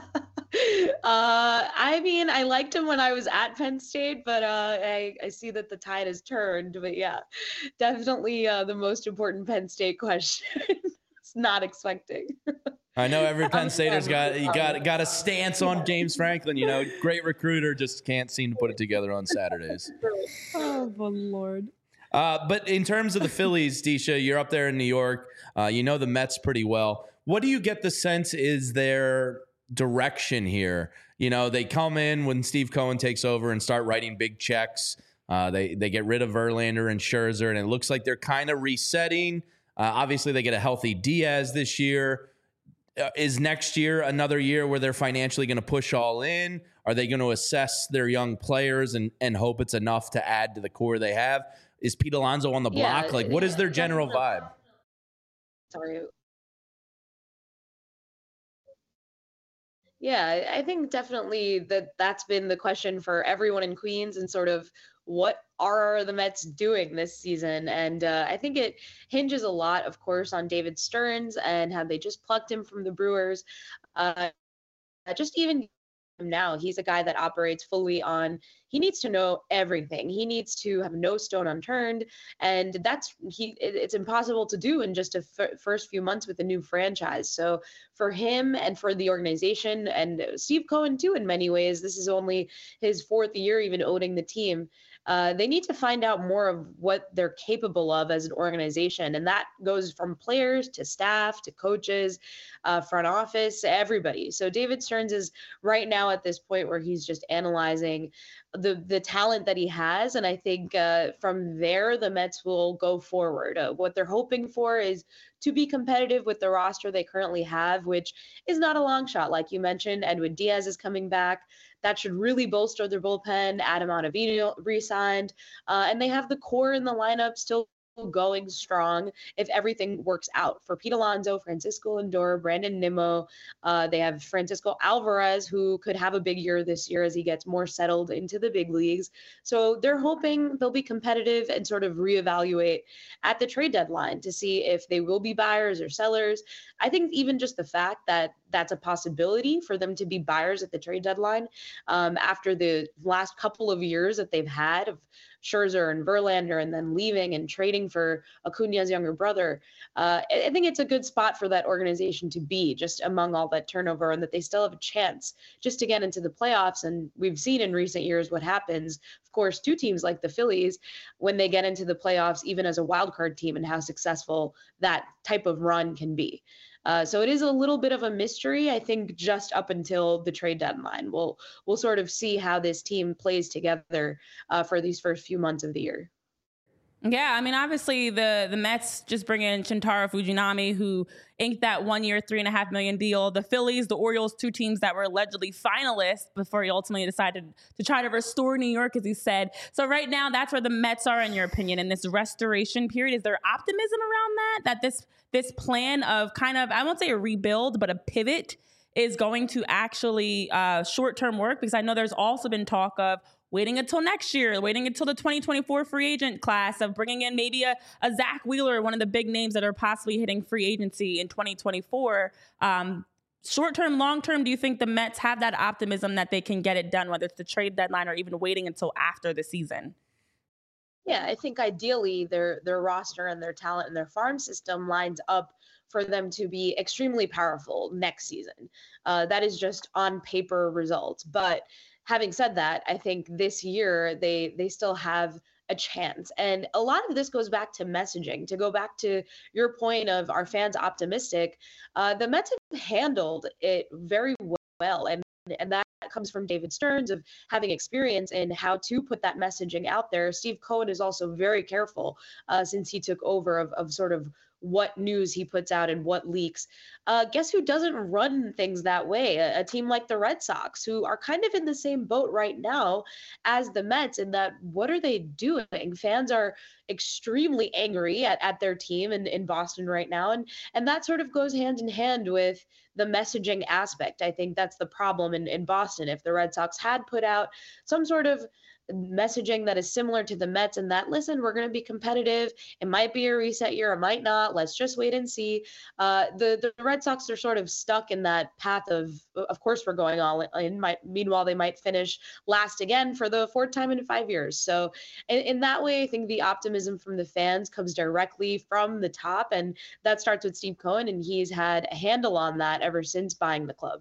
I mean, I liked him when I was at Penn State, but uh, I, I see that the tide has turned. But yeah, definitely uh, the most important Penn State question. It's not expecting. I know every Penn Stater's got you got got a stance on James Franklin. You know, great recruiter, just can't seem to put it together on Saturdays. Oh, my Lord. Uh, but in terms of the Phillies, Disha, you're up there in New York. Uh, you know the Mets pretty well. What do you get the sense is their direction here? You know, they come in when Steve Cohen takes over and start writing big checks. Uh, they they get rid of Verlander and Scherzer, and it looks like they're kind of resetting. Uh, obviously, they get a healthy Diaz this year. Uh, is next year another year where they're financially going to push all in? Are they going to assess their young players and, and hope it's enough to add to the core they have? Is Pete Alonso on the block? Yeah, like, what is their general vibe? Sorry. Yeah, I think definitely that that's been the question for everyone in Queens, and sort of what are the Mets doing this season? And uh, I think it hinges a lot, of course, on David Stearns and how they just plucked him from the Brewers. Uh, just even now, he's a guy that operates fully on, he needs to know everything. He needs to have no stone unturned. And that's, he, it, it's impossible to do in just a f- first few months with a new franchise. So for him and for the organization and Steve Cohen too, in many ways, this is only his fourth year even owning the team. Uh, they need to find out more of what they're capable of as an organization. And that goes from players to staff to coaches, uh, front office, everybody. So David Stearns is right now at this point where he's just analyzing the the talent that he has. And I think uh, from there, the Mets will go forward. Uh, what they're hoping for is to be competitive with the roster they currently have, which is not a long shot. Like you mentioned, Edwin Diaz is coming back. That should really bolster their bullpen. Adam Ottavino re-signed. Uh, and they have the core in the lineup still going strong if everything works out. For Pete Alonso, Francisco Lindor, Brandon Nimmo, uh, they have Francisco Alvarez, who could have a big year this year as he gets more settled into the big leagues. So they're hoping they'll be competitive and sort of reevaluate at the trade deadline to see if they will be buyers or sellers. I think even just the fact that that's a possibility for them to be buyers at the trade deadline um, after the last couple of years that they've had of Scherzer and Verlander and then leaving and trading for Acuna's younger brother. Uh, I think it's a good spot for that organization to be just among all that turnover, and that they still have a chance just to get into the playoffs. And we've seen in recent years what happens, of course, to teams like the Phillies when they get into the playoffs, even as a wild card team, and how successful that type of run can be. Uh, so it is a little bit of a mystery, I think, just up until the trade deadline. We'll we'll sort of see how this team plays together uh, for these first few months of the year. Yeah, I mean, obviously the the Mets just bring in Shintaro Fujinami, who inked that one-year, three and a half million deal. The Phillies, the Orioles, two teams that were allegedly finalists before he ultimately decided to try to restore New York, as he said. So right now, that's where the Mets are, in your opinion, in this restoration period. Is there optimism around that? That this this plan of kind of, I won't say a rebuild, but a pivot is going to actually uh, short-term work? Because I know there's also been talk of waiting until next year, waiting until the twenty twenty-four free agent class, of bringing in maybe a, a Zach Wheeler, one of the big names that are possibly hitting free agency in twenty twenty-four. Um, short-term, long-term, do you think the Mets have that optimism that they can get it done, whether it's the trade deadline or even waiting until after the season? Yeah, I think ideally their their roster and their talent and their farm system lines up for them to be extremely powerful next season. Uh, that is just on paper results. But having said that, I think this year they they still have a chance. And a lot of this goes back to messaging. To go back to your point of are fans optimistic, uh, the Mets have handled it very well. And and that comes from David Stearns of having experience in how to put that messaging out there. Steve Cohen is also very careful uh, since he took over of, of sort of what news he puts out and what leaks. Uh, guess who doesn't run things that way? A, a team like the Red Sox, who are kind of in the same boat right now as the Mets, in that what are they doing? Fans are extremely angry at, at their team in, in Boston right now. And, and that sort of goes hand in hand with the messaging aspect. I think that's the problem in, in Boston. If the Red Sox had put out some sort of messaging that is similar to the Mets, and that, listen, we're going to be competitive. It might be a reset year. It might not. Let's just wait and see. Uh, the, the Red Sox are sort of stuck in that path of, of course, we're going all in. Might, meanwhile, they might finish last again for the fourth time in five years. So in, in that way, I think the optimism from the fans comes directly from the top. And that starts with Steve Cohen, and he's had a handle on that ever since buying the club.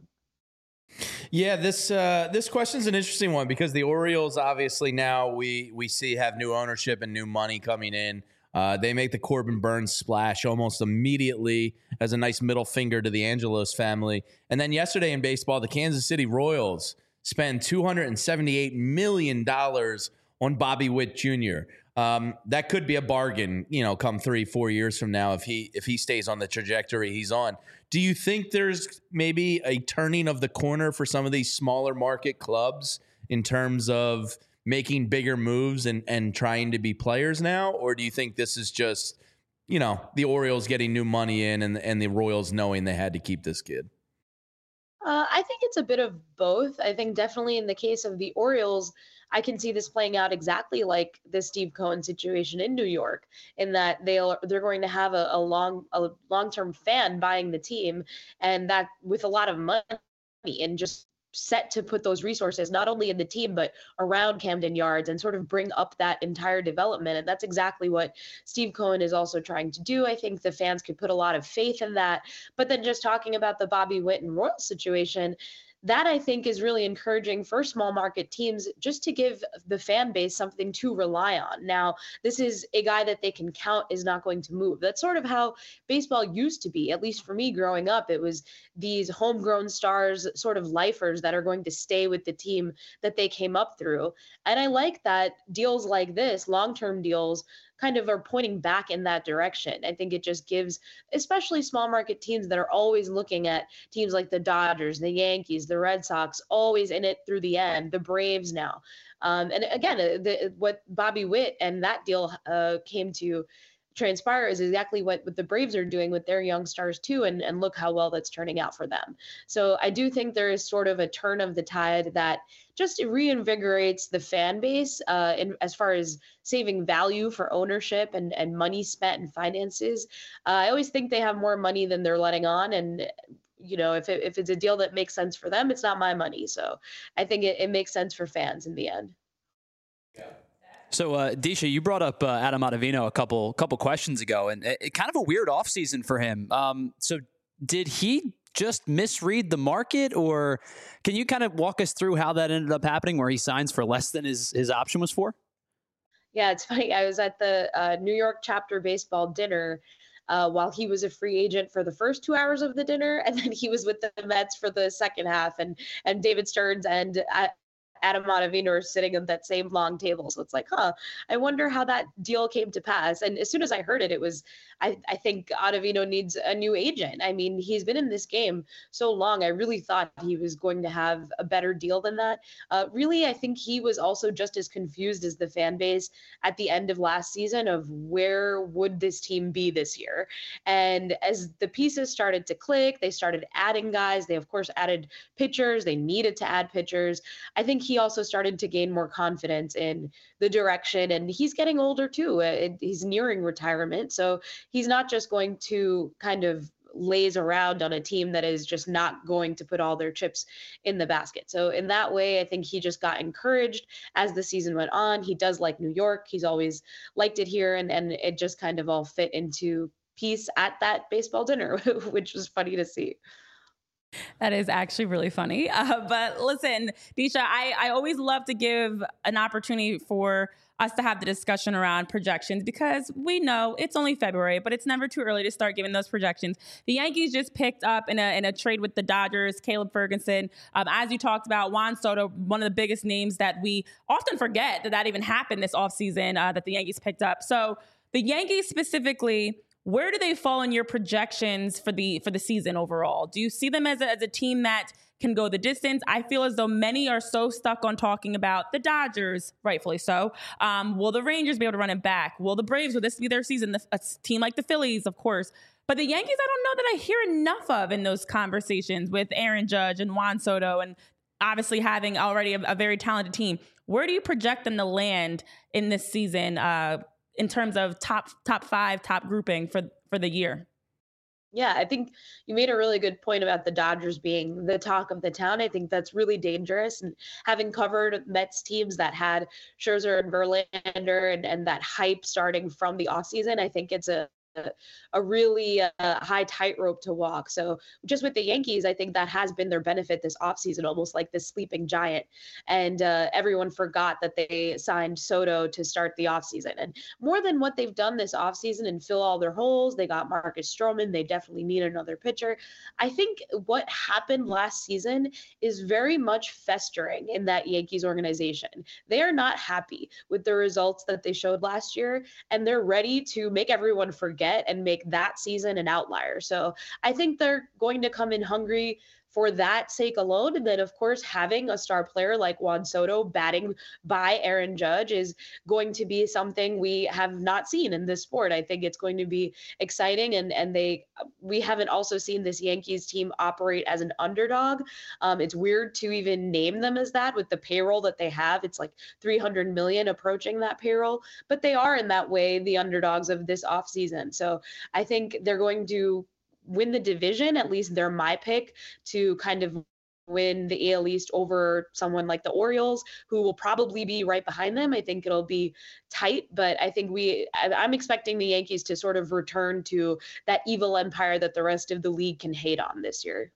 Yeah, this uh, this question's an interesting one because the Orioles obviously now we we see have new ownership and new money coming in. Uh, they make the Corbin Burns splash almost immediately as a nice middle finger to the Angelos family. And then yesterday in baseball, the Kansas City Royals spend two hundred seventy-eight million dollars on Bobby Witt Junior Um, that could be a bargain, you know, come three, four years from now if he if he stays on the trajectory he's on. Do you think there's maybe a turning of the corner for some of these smaller market clubs in terms of making bigger moves and, and trying to be players now? Or do you think this is just, you know, the Orioles getting new money in and, and the Royals knowing they had to keep this kid? Uh, I think it's a bit of both. I think definitely in the case of the Orioles, I can see this playing out exactly like the Steve Cohen situation in New York, in that they'll they're going to have a, a long a long-term fan buying the team, and that with a lot of money and just set to put those resources not only in the team but around Camden Yards and sort of bring up that entire development. And that's exactly what Steve Cohen is also trying to do. I think the fans could put a lot of faith in that. But then just talking about the Bobby Witt and Royal situation, that I think is really encouraging for small market teams just to give the fan base something to rely on. Now, this is a guy that they can count is not going to move. That's sort of how baseball used to be, at least for me growing up. It was these homegrown stars, sort of lifers that are going to stay with the team that they came up through. And I like that deals like this, long-term deals, kind of are pointing back in that direction. I think it just gives, especially small market teams that are always looking at teams like the Dodgers, the Yankees, the Red Sox, always in it through the end, the Braves now. Um, and again, the, what Bobby Witt and that deal uh, came to transpire is exactly what, what the Braves are doing with their young stars too, and, and look how well that's turning out for them. So I do think there is sort of a turn of the tide that just reinvigorates the fan base uh, in, as far as saving value for ownership and, and money spent in finances. Uh, I always think they have more money than they're letting on, and you know, if it, if it's a deal that makes sense for them, it's not my money. So I think it, it makes sense for fans in the end. So, uh, Disha, you brought up uh, Adam Ottavino a couple couple questions ago, and it, it kind of a weird offseason for him. Um, so did he just misread the market, or can you kind of walk us through how that ended up happening where he signs for less than his, his option was for? Yeah, it's funny. I was at the uh, New York chapter baseball dinner uh, while he was a free agent for the first two hours of the dinner, and then he was with the Mets for the second half, and and David Stearns and uh, Adam Ottavino are sitting at that same long table. So it's like, huh, I wonder how that deal came to pass. And as soon as I heard it, it was, I, I think Ottavino needs a new agent. I mean, he's been in this game so long. I really thought he was going to have a better deal than that. Uh, really, I think he was also just as confused as the fan base at the end of last season of where would this team be this year. And as the pieces started to click, they started adding guys. They, of course, added pitchers. They needed to add pitchers. I think he also started to gain more confidence in the direction, and he's getting older too. Uh, he's nearing retirement. So he's not just going to kind of laze around on a team that is just not going to put all their chips in the basket. So in that way, I think he just got encouraged as the season went on. He does like New York. He's always liked it here. And, and it just kind of all fit into piece at that baseball dinner, which was funny to see. That is actually really funny. Uh, but listen, Disha, I, I always love to give an opportunity for us to have the discussion around projections because we know it's only February, but it's never too early to start giving those projections. The Yankees just picked up in a in a trade with the Dodgers, Caleb Ferguson. Um, as you talked about, Juan Soto, one of the biggest names that we often forget that that even happened this offseason uh, that the Yankees picked up. So the Yankees specifically, where do they fall in your projections for the for the season overall? Do you see them as a, as a team that can go the distance? I feel as though many are so stuck on talking about the Dodgers, rightfully so. Um, will the Rangers be able to run it back? Will the Braves, will this be their season? The, a team like the Phillies, of course. But the Yankees, I don't know that I hear enough of in those conversations with Aaron Judge and Juan Soto and obviously having already a, a very talented team. Where do you project them to land in this season uh, in terms of top top five, top grouping for, for the year? Yeah, I think you made a really good point about the Dodgers being the talk of the town. I think that's really dangerous. And having covered Mets teams that had Scherzer and Verlander and, and that hype starting from the offseason, I think it's a a really uh, high tightrope to walk. So just with the Yankees, I think that has been their benefit this offseason, almost like this sleeping giant. And uh, everyone forgot that they signed Soto to start the offseason. And more than what they've done this offseason and fill all their holes, they got Marcus Stroman. They definitely need another pitcher. I think what happened last season is very much festering in that Yankees organization. They are not happy with the results that they showed last year, and they're ready to make everyone forget and make that season an outlier. So I think they're going to come in hungry for that sake alone. And then, of course, having a star player like Juan Soto batting by Aaron Judge is going to be something we have not seen in this sport. I think it's going to be exciting. And, and they we haven't also seen this Yankees team operate as an underdog. Um, it's weird to even name them as that with the payroll that they have. It's like three hundred million approaching that payroll, but they are in that way the underdogs of this offseason. So I think they're going to win the division. At least they're my pick to kind of win the A L East over someone like the Orioles, who will probably be right behind them. I think it'll be tight, but I think we, I'm expecting the Yankees to sort of return to that evil empire that the rest of the league can hate on this year.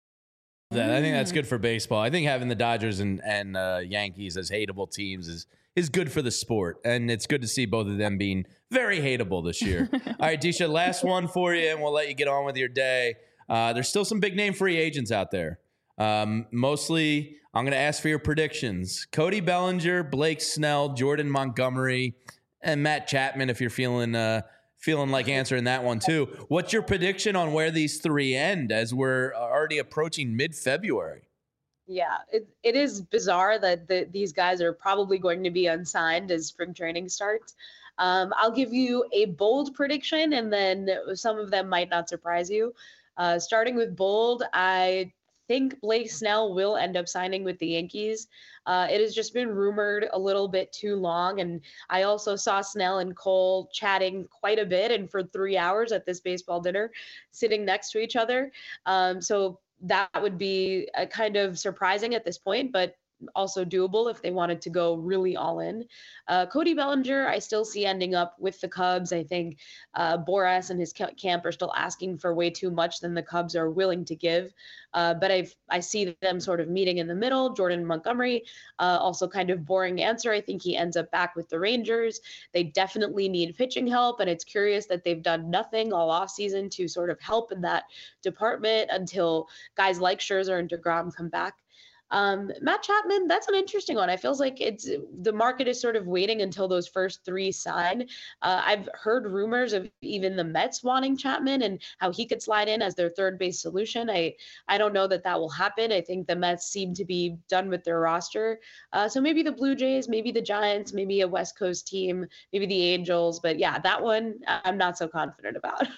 That I think that's good for baseball. I think having the Dodgers and, and uh, Yankees as hateable teams is is good for the sport, and it's good to see both of them being very hateable this year. All right, Disha, last one for you, and we'll let you get on with your day. Uh, there's still some big name free agents out there. Um, mostly, I'm going to ask for your predictions. Cody Bellinger, Blake Snell, Jordan Montgomery, and Matt Chapman. If you're feeling uh, feeling like answering that one too, what's your prediction on where these three end as we're already approaching mid-February? Yeah, it, it is bizarre that the, these guys are probably going to be unsigned as spring training starts. Um, I'll give you a bold prediction, and then some of them might not surprise you. Uh, starting with bold, I think Blake Snell will end up signing with the Yankees. Uh, it has just been rumored a little bit too long, and I also saw Snell and Cole chatting quite a bit and for three hours at this baseball dinner, sitting next to each other. Um, so that would be a kind of surprising at this point, but also doable if they wanted to go really all in. Uh, Cody Bellinger, I still see ending up with the Cubs. I think uh, Boras and his camp are still asking for way too much than the Cubs are willing to give. Uh, but I've, I see them sort of meeting in the middle. Jordan Montgomery, uh, also kind of boring answer. I think he ends up back with the Rangers. They definitely need pitching help, and it's curious that they've done nothing all offseason to sort of help in that department until guys like Scherzer and DeGrom come back. Um, Matt Chapman, that's an interesting one. I feels like it's the market is sort of waiting until those first three sign. Uh, I've heard rumors of even the Mets wanting Chapman and how he could slide in as their third base solution. I, I don't know that that will happen. I think the Mets seem to be done with their roster. Uh, so maybe the Blue Jays, maybe the Giants, maybe a West Coast team, maybe the Angels. But yeah, that one I'm not so confident about.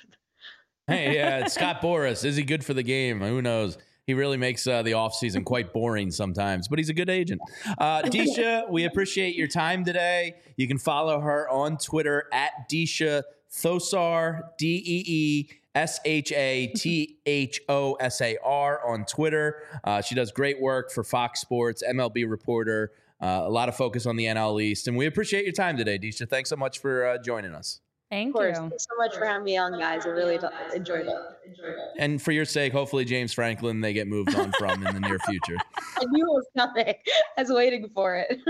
Hey, yeah, Scott Boras. Is he good for the game? Who knows? He really makes uh, the offseason quite boring sometimes, but he's a good agent. Uh, Disha, we appreciate your time today. You can follow her on Twitter at Disha Thosar, D E E S H A T H O S A R on Twitter. Uh, she does great work for Fox Sports, M L B reporter, uh, a lot of focus on the N L East. And we appreciate your time today, Disha. Thanks so much for uh, joining us. Thank Of course. you. Thanks so much for having me on, guys. I really enjoyed it. And for your sake, hopefully James Franklin they get moved on from in the near future. I knew it was coming. I was waiting for it.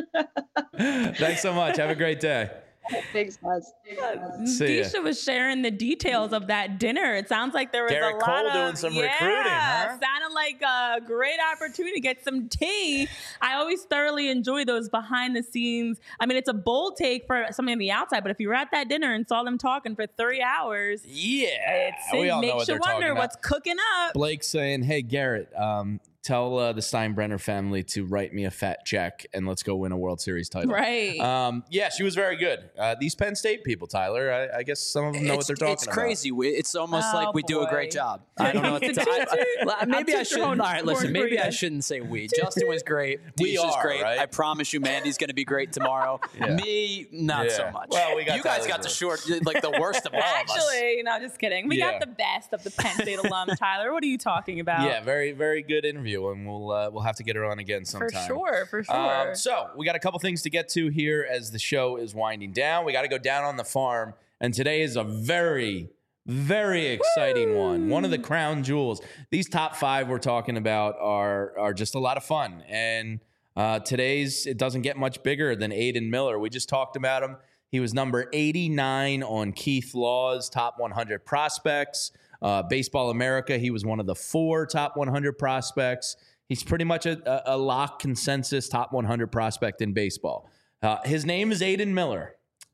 Thanks so much. Have a great day. Thanks, guys. See ya. Disha was sharing the details of that dinner. It sounds like there was Garrett a lot Cole of doing some yeah, recruiting, huh? Sounded like a great opportunity to get some tea. I always thoroughly enjoy those behind the scenes. I mean, it's a bold take for somebody on the outside, but if you were at that dinner and saw them talking for three hours, Yeah, it's, we it all know makes what you they're talking wonder about. what's cooking up. Blake saying, "Hey Garrett, um, tell uh, the Steinbrenner family to write me a fat check and let's go win a World Series title." Right. Um, yeah, she was very good. Uh, these Penn State people, Tyler, I, I guess some of them know what It's, they're talking it's about. crazy. We, it's almost Oh, like we do a great boy. job. I don't know what to tell I, Maybe I toot should. your All own right, listen. horn for Maybe you. I shouldn't say we. Justin was great. We Disha's are, great. right? I promise you, Mandy's going to be great tomorrow. Yeah. Me, not Yeah. so much. Well, we got you guys Tyler's got the work. short, like the worst of all of us. Actually, no, just kidding. We Yeah. got the best of the Penn State alum, Tyler. What are you talking about? Yeah, very, very good interview, and we'll uh, we'll have to get her on again for sometime. sure, for sure. Um, so we got a couple things to get to here as the show is winding down. We got to go down on the farm, and today is a very, very exciting one. One of the crown jewels. These top five we're talking about are are just a lot of fun, and uh, today's it doesn't get much bigger than Aiden Miller. We just talked about him. He was number eighty-nine on Keith Law's top one hundred prospects. Uh, Baseball America, he was one of the four top one hundred prospects. He's pretty much a, a lock consensus top one hundred prospect in baseball. Uh, his name is Aiden Miller.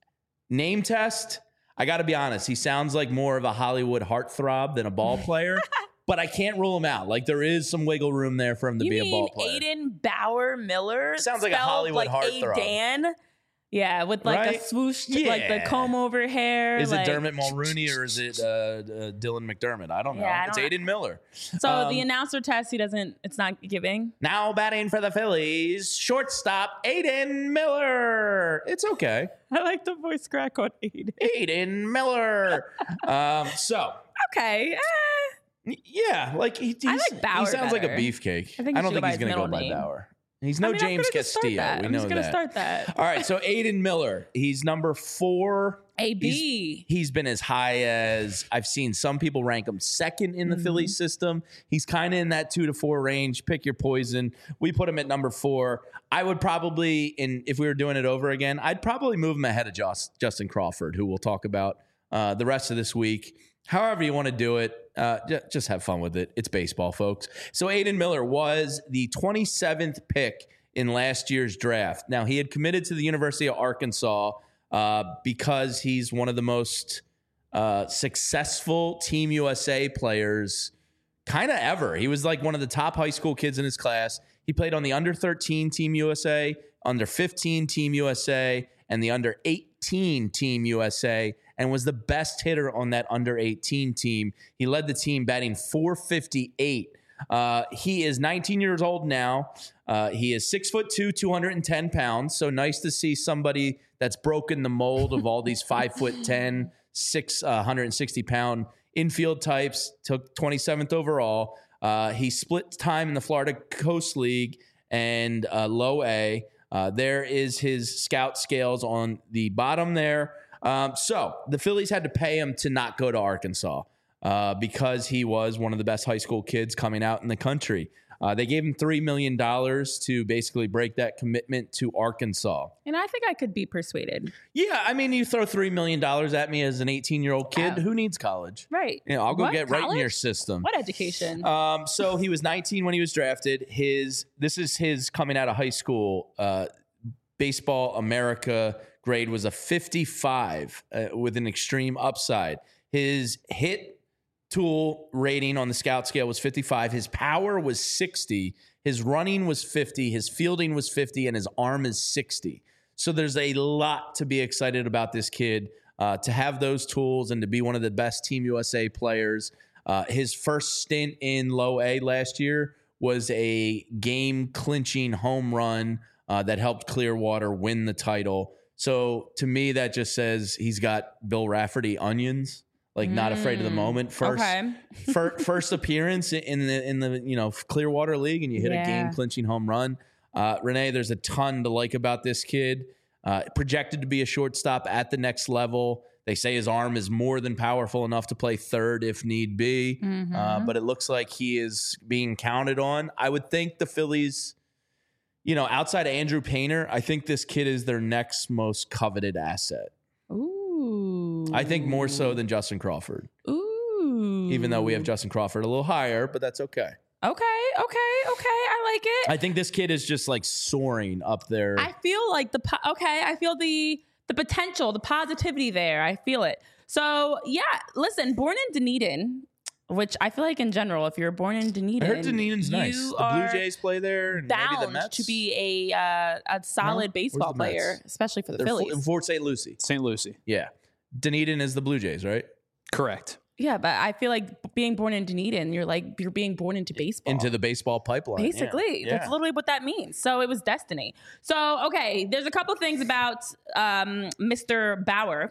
Name test, I got to be honest, he sounds like more of a Hollywood heartthrob than a ball player, but I can't rule him out. Like there is some wiggle room there for him to you be mean a ball player. Aiden Bauer Miller? Sounds like a spelled Hollywood like heartthrob. Aidan? Yeah, with like Right? a swoosh, like the Yeah. comb over hair. Is like, it Dermot Mulrooney or is it uh, uh, Dylan McDermott? I don't know. Yeah, I it's don't- Aiden Miller. So Um, the announcer test, he doesn't, it's not giving. Now batting for the Phillies, shortstop Aiden Miller. It's okay. I like the voice crack on Aiden. Aiden Miller. um, so, Okay. eh. yeah, like he, I he's, like Bauer he sounds like a better. beefcake. I think I you don't should think go he's by going his to go middle by name. Bauer. He's no I mean, I'm James gonna just start Castillo. that. We I'm know just gonna that. start that. All right, so Aiden Miller. He's number four. A B. He's been as high as I've seen some people rank him second in the Mm-hmm. Phillies system. He's kind of in that two to four range. Pick your poison. We put him at number four. I would probably, in if we were doing it over again, I'd probably move him ahead of Joss, Justin Crawford, who we'll talk about uh, the rest of this week. However you want to do it, uh, j- just have fun with it. It's baseball, folks. So Aiden Miller was the twenty-seventh pick in last year's draft. Now, he had committed to the University of Arkansas uh, because he's one of the most uh, successful Team U S A players kind of ever. He was like one of the top high school kids in his class. He played on the under thirteen Team U S A, under fifteen Team U S A, and the under eighteen Team U S A, and was the best hitter on that under eighteen team. He led the team batting four fifty-eight. Uh, he is nineteen years old now. Uh, he is six foot two, two hundred ten pounds. So nice to see somebody that's broken the mold of all these five foot ten, six hundred sixty pound infield types. Took twenty-seventh overall. Uh, he split time in the Florida Coast League and uh, Low A. Uh, there is his scout scales on the bottom there. Um, so the Phillies had to pay him to not go to Arkansas uh, because he was one of the best high school kids coming out in the country. Uh, they gave him three million dollars to basically break that commitment to Arkansas. And I think I could be persuaded. Yeah, I mean, you throw three million dollars at me as an eighteen-year-old kid. Yeah. Who needs college? Right. You know, I'll go What? get right in your College? system. What education? Um, so he was nineteen when he was drafted. His this is his coming out of high school. Uh, Baseball America grade was a fifty-five uh, with an extreme upside. His hit tool rating on the scout scale was fifty-five. His power was sixty. His running was fifty. His fielding was fifty, and his arm is sixty. So there's a lot to be excited about this kid. Uh, to have those tools and to be one of the best Team U S A players. Uh, his first stint in Low A last year was a game-clinching home run uh, that helped Clearwater win the title. So to me, that just says he's got Bill Rafferty onions, like not afraid of the moment. First, Okay. fir- first appearance in the in the you know Clearwater League, and you hit Yeah. a game-clinching home run. Uh, Renee, there's a ton to like about this kid. Uh, projected to be a shortstop at the next level. They say his arm is more than powerful enough to play third if need be. Mhm. Uh, but it looks like he is being counted on. I would think the Phillies, you know, outside of Andrew Painter, I think this kid is their next most coveted asset. Ooh. I think more so than Justin Crawford, Ooh. even though we have Justin Crawford a little higher, but that's okay. Okay, okay, okay. I like it. I think this kid is just like soaring up there. I feel like the po- okay. I feel the the potential, the positivity there. I feel it. So yeah, listen. Born in Dunedin, which I feel like in general, if you're born in Dunedin, I heard Dunedin's you nice. The are Blue Jays play there, and maybe the bound Mets. to be a uh, a solid No? baseball Where's the Mets? player, especially for the They're Phillies. in Fort Saint Lucie. Saint Lucie. Yeah, Dunedin is the Blue Jays, right? Correct. Yeah, but I feel like being born in Dunedin, you're like you're being born into baseball. Into the baseball pipeline. yeah. Basically, Yeah. that's literally what that means. So it was destiny. So okay, there's a couple things about um, Mister Bauer.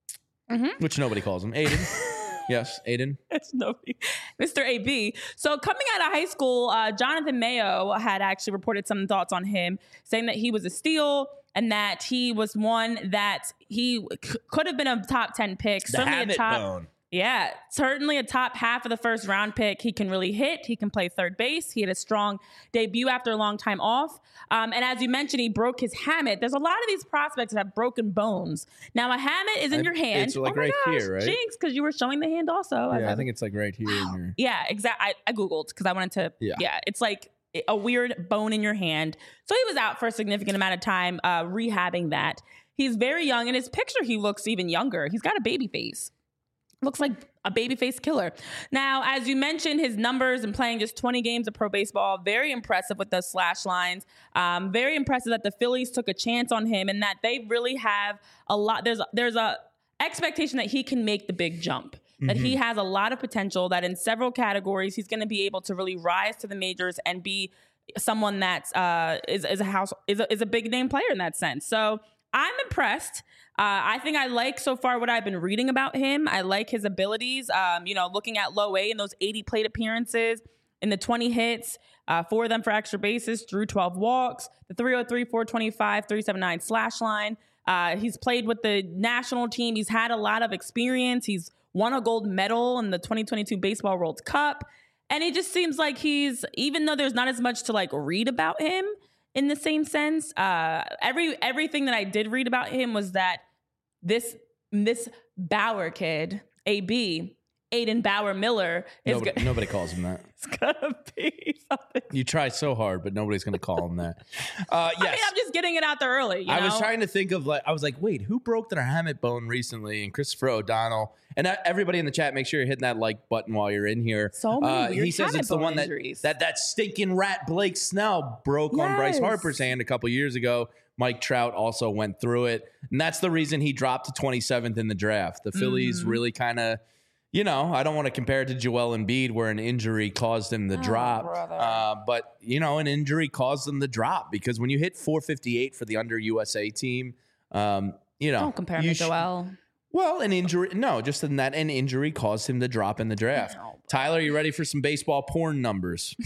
Which nobody calls him. Aiden. Yes, Aiden. It's nobody. Mister A B. So coming out of high school, uh, Jonathan Mayo had actually reported some thoughts on him, saying that he was a steal and that he was one that he c- could have been a top ten pick. The certainly a habit top. bone. Yeah, certainly a top half of the first round pick. He can really hit. He can play third base. He had a strong debut after a long time off. Um, and as you mentioned, he broke his hamate. There's a lot of these prospects that have broken bones. Now, a hamate is in I- your hand. it's like oh my right gosh, here, right? Jinx, because you were showing the hand also. Yeah, I think it's like right here. In your, Yeah, exactly. I, I Googled because I wanted to. Yeah. Yeah. It's like a weird bone in your hand. So he was out for a significant amount of time uh, rehabbing that. He's very young. In his picture, he looks even younger. He's got a baby face. Looks like a babyface killer. Now, as you mentioned, his numbers and playing just twenty games of pro baseball, very impressive with those slash lines. Um, very impressive that the Phillies took a chance on him and that they really have a lot. There's there's a expectation that he can make the big jump. That he has a lot of potential. That in several categories he's going to be able to really rise to the majors and be someone that's uh, is is a house is a, is a big name player in that sense. So I'm impressed. Uh, I think I like so far what I've been reading about him. I like his abilities. Um, you know, looking at low A and those eighty plate appearances in the twenty hits, uh, four of them for extra bases, drew twelve walks, the three oh three, four twenty-five, three seventy-nine slash line. Uh, he's played with the national team. He's had a lot of experience. He's won a gold medal in the twenty twenty-two Baseball World Cup. And it just seems like he's, even though there's not as much to like read about him, in the same sense, uh, every everything that I did read about him was that this this Bauer kid, A B, Aiden Bauer Miller, is nobody, go- nobody calls him that. it's gonna be something. You try so hard, but nobody's going to call him that. Uh, yes. I mean, I'm just getting it out there early. You I know? was trying to think of like I was like, wait, who broke their hamate bone recently? And Christopher O'Donnell. And uh, everybody in the chat, make sure you're hitting that like button while you're in here. So many uh, weird He says hamate it's the bone one that, injuries. that that stinking rat Blake Snell broke on Bryce Yes. Harper's hand a couple years ago. Mike Trout also went through it, and that's the reason he dropped to twenty-seventh in the draft. The Phillies Mm-hmm. really kind of. You know, I don't want to compare it to Joel Embiid where an injury caused him the drop. Oh, brother. Uh, but, you know, an injury caused him the drop because when you hit four fifty-eight for the under U S A team, um, you know. Don't compare you me to sh- Joel. Well, an injury. No, just in that an injury caused him the drop in the draft. No. Tyler, you ready for some baseball porn numbers?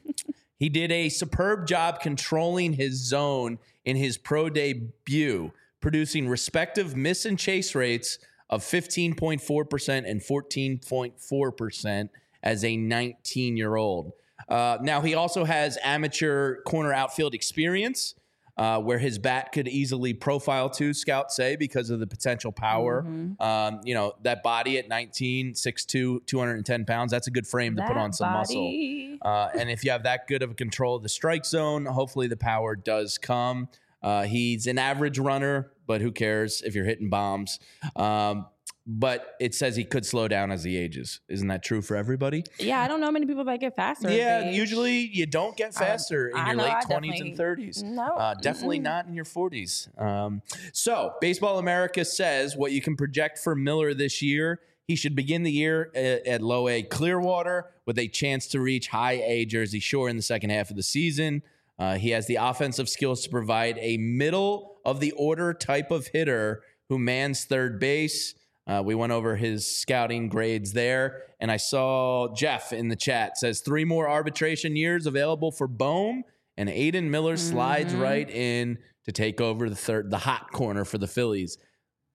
He did a superb job controlling his zone in his pro debut, producing respective miss and chase rates of fifteen point four percent and fourteen point four percent as a nineteen-year-old. Uh, now, he also has amateur corner outfield experience, uh, where his bat could easily profile to, scouts say, because of the potential power. Mm-hmm. Um, you know, that body at nineteen, six two, two hundred ten pounds, that's a good frame to put That on some muscle. body. Uh, and if you have that good of a control of the strike zone, hopefully the power does come. Uh, he's an average runner, but who cares if you're hitting bombs? Um, but it says he could slow down as he ages. Isn't that true for everybody? Yeah, I don't know many people that get faster. as Yeah, they age. usually you don't get faster in I your know, late I twenties definitely- and thirties. No, Uh, definitely mm-mm. not in your forties. Um, so, Baseball America says what you can project for Miller this year. He should begin the year at, at low A Clearwater with a chance to reach high A Jersey Shore in the second half of the season. Uh, he has the offensive skills to provide a middle of the order type of hitter who mans third base. Uh, we went over his scouting grades there, and I saw Jeff in the chat says three more arbitration years available for Bohm, and Aiden Miller slides Mhm. right in to take over the third, the hot corner for the Phillies.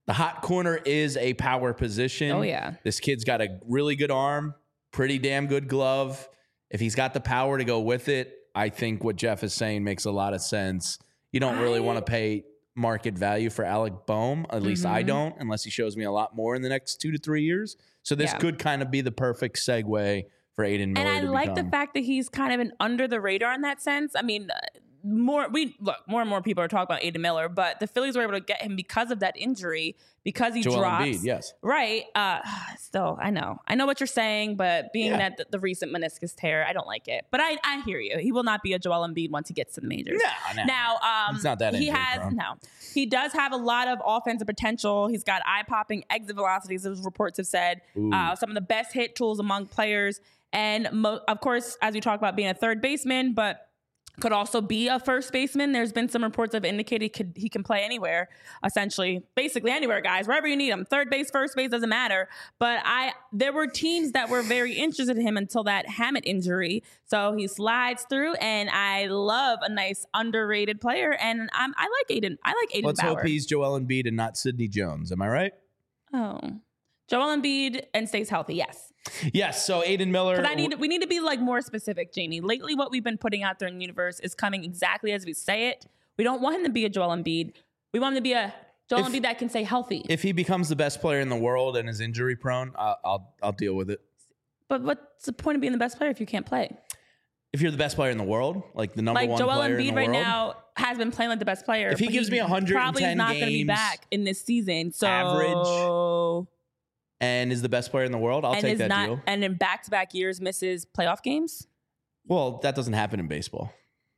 The hot corner is a power position. Oh, yeah. This kid's got a really good arm, pretty damn good glove. If he's got the power to go with it, I think what Jeff is saying makes a lot of sense. You don't really I- want to pay market value for Alec Boehm. At least I Mhm. don't, unless he shows me a lot more in the next two to three years. So this Yeah. could kind of be the perfect segue for Aiden Miller. And I to like become. the fact that he's kind of an under the radar in that sense. I mean, uh, more we look more and more people are talking about Aiden Miller, but the Phillies were able to get him because of that injury, because he Joel drops. Embiid, yes. Right. Uh, still, I know. I know what you're saying, but being Yeah. that the, the recent meniscus tear, I don't like it. But I, I hear you. He will not be a Joel Embiid once he gets to the majors. No, no. Now, um, He's not that he injury has prone. no. He does have a lot of offensive potential. He's got eye-popping exit velocities, as reports have said. Ooh. Uh, some of the best hit tools among players, and mo- of course, as we talk about being a third baseman, but could also be a first baseman. There's been some reports that have indicated he, could, he can play anywhere, essentially, basically anywhere, guys, wherever you need him. Third base, first base, doesn't matter. But I, there were teams that were very interested in him until that Hammett injury. So he slides through, and I love a nice underrated player. And I'm, I like Aiden. I like Aiden Let's Bauer. hope he's Joel Embiid and not Sidney Jones. Am I right? Oh, Joel Embiid and stays healthy. Yes. Yes. So Aiden Miller. Because I need we need to be like more specific, Jamie. Lately, what we've been putting out there in the universe is coming exactly as we say it. We don't want him to be a Joel Embiid. We want him to be a Joel If- Embiid that can stay healthy. If he becomes the best player in the world and is injury prone, I'll, I'll I'll deal with it. But what's the point of being the best player if you can't play? If you're the best player in the world, like the number Like one Joel player in Embiid the right world, now has been playing like the best player. If he but gives me one hundred ten probably is not going to be games, back in this season. So average, and is the best player in the world, I'll and take is that not deal. and in back to back years misses playoff games. Well, that doesn't happen in baseball.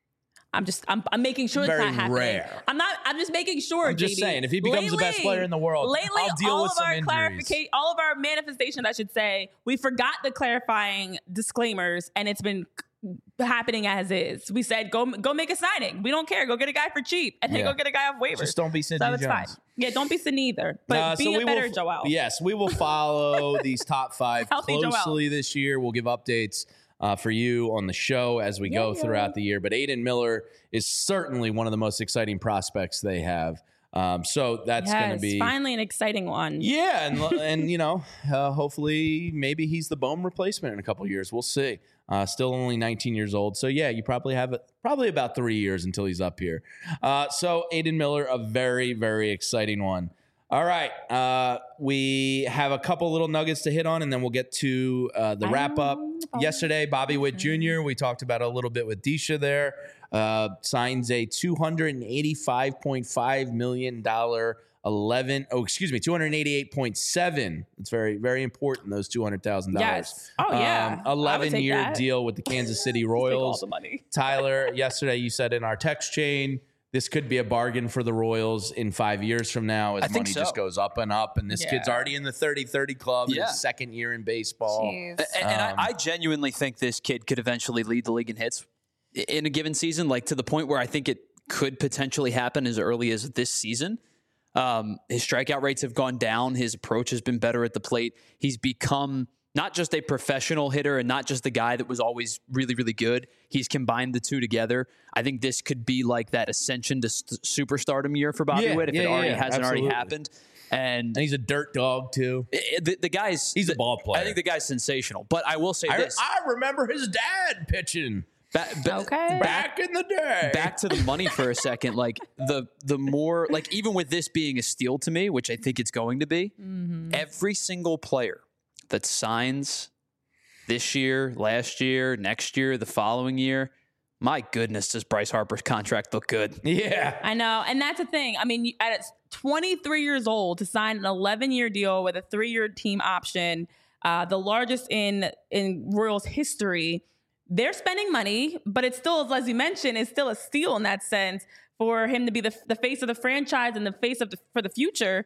I'm just I'm, I'm making sure Very it's not happening. rare. I'm not. I'm just making sure. I'm just J B. saying, if he becomes the best player in the world, lately, I'll deal all with of some our injuries. clarification, all of our manifestations, I should say, we forgot the clarifying disclaimers, and it's been happening as is. We said go go make a signing. We don't care. Go get a guy for cheap, and then Yeah. go get a guy off waivers. Just don't be Sidney so it's Jones. fine. Yeah, don't be Sidney either. But Uh, be so a we better will, Joel. Yes, we will follow these top five Healthy Joel. closely this year. We'll give updates uh, for you on the show as we go Yeah. throughout the year. But Aiden Miller is certainly one of the most exciting prospects they have. Um, so that's going to Yes, be finally an exciting one. yeah, and and you know, uh, hopefully maybe he's the Boehm replacement in a couple of years. We'll see. Uh, still only nineteen years old, so yeah, you probably have it probably about three years until he's up here. Uh, so Aiden Miller, a very very exciting one. All right, uh, we have a couple little nuggets to hit on, and then we'll get to uh, the wrap up. Yesterday, Bobby Witt Junior We talked about a little bit with Disha there. Uh, signs a two hundred eighty-five point five million dollars eleven. Oh, excuse me, two hundred eighty-eight point seven. It's very, very important. Those two hundred thousand dollars. Yes. Oh yeah. I would eleven take year that. deal with the Kansas City Take all Royals. the money. Tyler, yesterday you said in our text chain, this could be a bargain for the Royals in five years from now as I think money so. just goes up and up. And this Yeah. kid's already in the thirty thirty club in Yeah. his second year in baseball. Jeez. And, and Um, I, I genuinely think this kid could eventually lead the league in hits in a given season, like to the point where I think it could potentially happen as early as this season. Um, his strikeout rates have gone down. His approach has been better at the plate. He's become not just a professional hitter and not just the guy that was always really, really good. He's combined the two together. I think this could be like that ascension to st- superstardom year for Bobby Yeah, Witt if yeah, it already yeah, hasn't absolutely. already happened. And And he's a dirt dog, too. it- the, the guy's He's a the- ball player. I think the guy's sensational. But I will say I, this: I remember his dad pitching ba- ba- Okay. back in the day. back to the money for a second. Like the the more like even with this being a steal to me, which I think it's going to be, every single player that signs this year, last year, next year, the following year, my goodness, does Bryce Harper's contract look good? Yeah. I know. And that's the thing. I mean, you- at twenty-three years old to sign an eleven year deal with a three year team option, uh, the largest in, in Royals history, they're spending money, but it's still, as you mentioned, it's still a steal in that sense for him to be the, the face of the franchise and the face of the, for the future.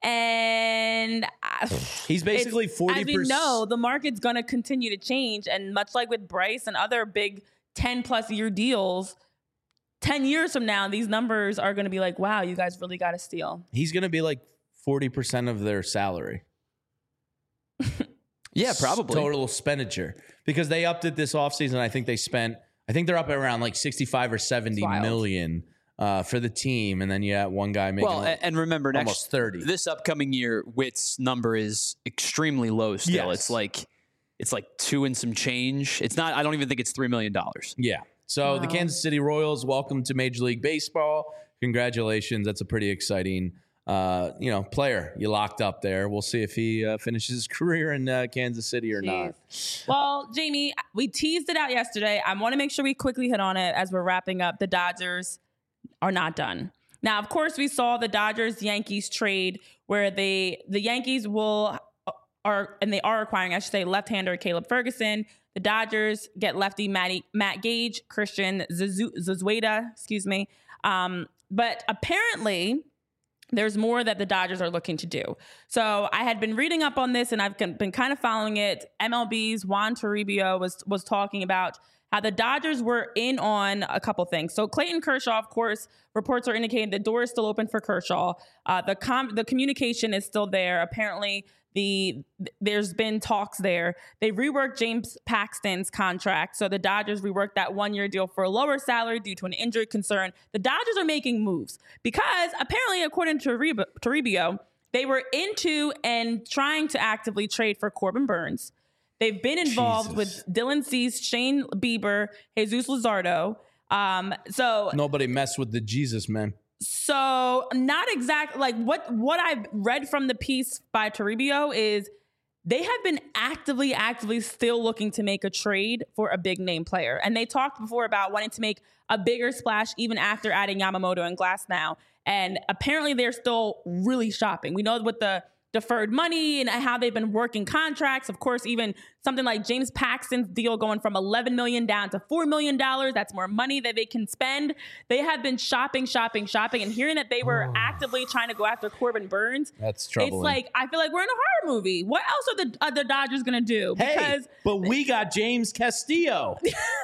And I- He's basically it's- forty As percent. we know, the market's going to continue to change. And much like with Bryce and other big ten plus year deals, ten years from now, these numbers are going to be like, wow, you guys really got a steal. He's going to be like forty percent of their salary. Yeah, probably. Total expenditure. Because they upped it this offseason. I think they spent, I think they're up at around like sixty-five or seventy wild. million uh, for the team, and then you have one guy making Well, like and remember, next almost thirty. This upcoming year, Witt's number is extremely low. Still, Yes. it's like it's like two and some change. It's not. I don't even think it's three million dollars. Yeah. So Wow. the Kansas City Royals, welcome to Major League Baseball. Congratulations. That's a pretty exciting, uh, you know, player you locked up there. We'll see if he uh, finishes his career in uh, Kansas City or not. Well, Jamie, we teased it out yesterday. I want to make sure we quickly hit on it as we're wrapping up. The Dodgers are not done. Now, of course, we saw the Dodgers-Yankees trade where they the Yankees will are and they are acquiring, I should say, left-hander Caleb Ferguson. The Dodgers get lefty Matty, Matt Gage, Christian Zazueta, excuse me. Um, but apparently, there's more that the Dodgers are looking to do. So I had been reading up on this, and I've been kind of following it. M L B's Juan Toribio was was talking about how the Dodgers were in on a couple things. So Clayton Kershaw, of course, reports are indicating the door is still open for Kershaw. Uh, the com- the communication is still there. Apparently, the there's been talks there. They reworked James Paxton's contract. So the Dodgers reworked that one-year deal for a lower salary due to an injury concern. The Dodgers are making moves because apparently, according to Toribio, Toribio they were into and trying to actively trade for Corbin Burns. They've been involved Jesus. with Dylan Cease, Shane Bieber, Jesus Luzardo. Um, so Nobody messed with the Jesus man. So not exactly like what what I've read from the piece by Toribio is they have been actively, actively still looking to make a trade for a big name player. And they talked before about wanting to make a bigger splash even after adding Yamamoto and Glasnow. And apparently they're still really shopping. We know with the deferred money and how they've been working contracts. Of course, even something like James Paxton's deal going from eleven million dollars down to four million dollars. That's more money that they can spend. They have been shopping, shopping, shopping, and hearing that they were Oh. actively trying to go after Corbin Burns. That's troubling. It's like, I feel like we're in a horror movie. What else are the, are the Dodgers going to do? Hey, Because, but we got James Castillo. oh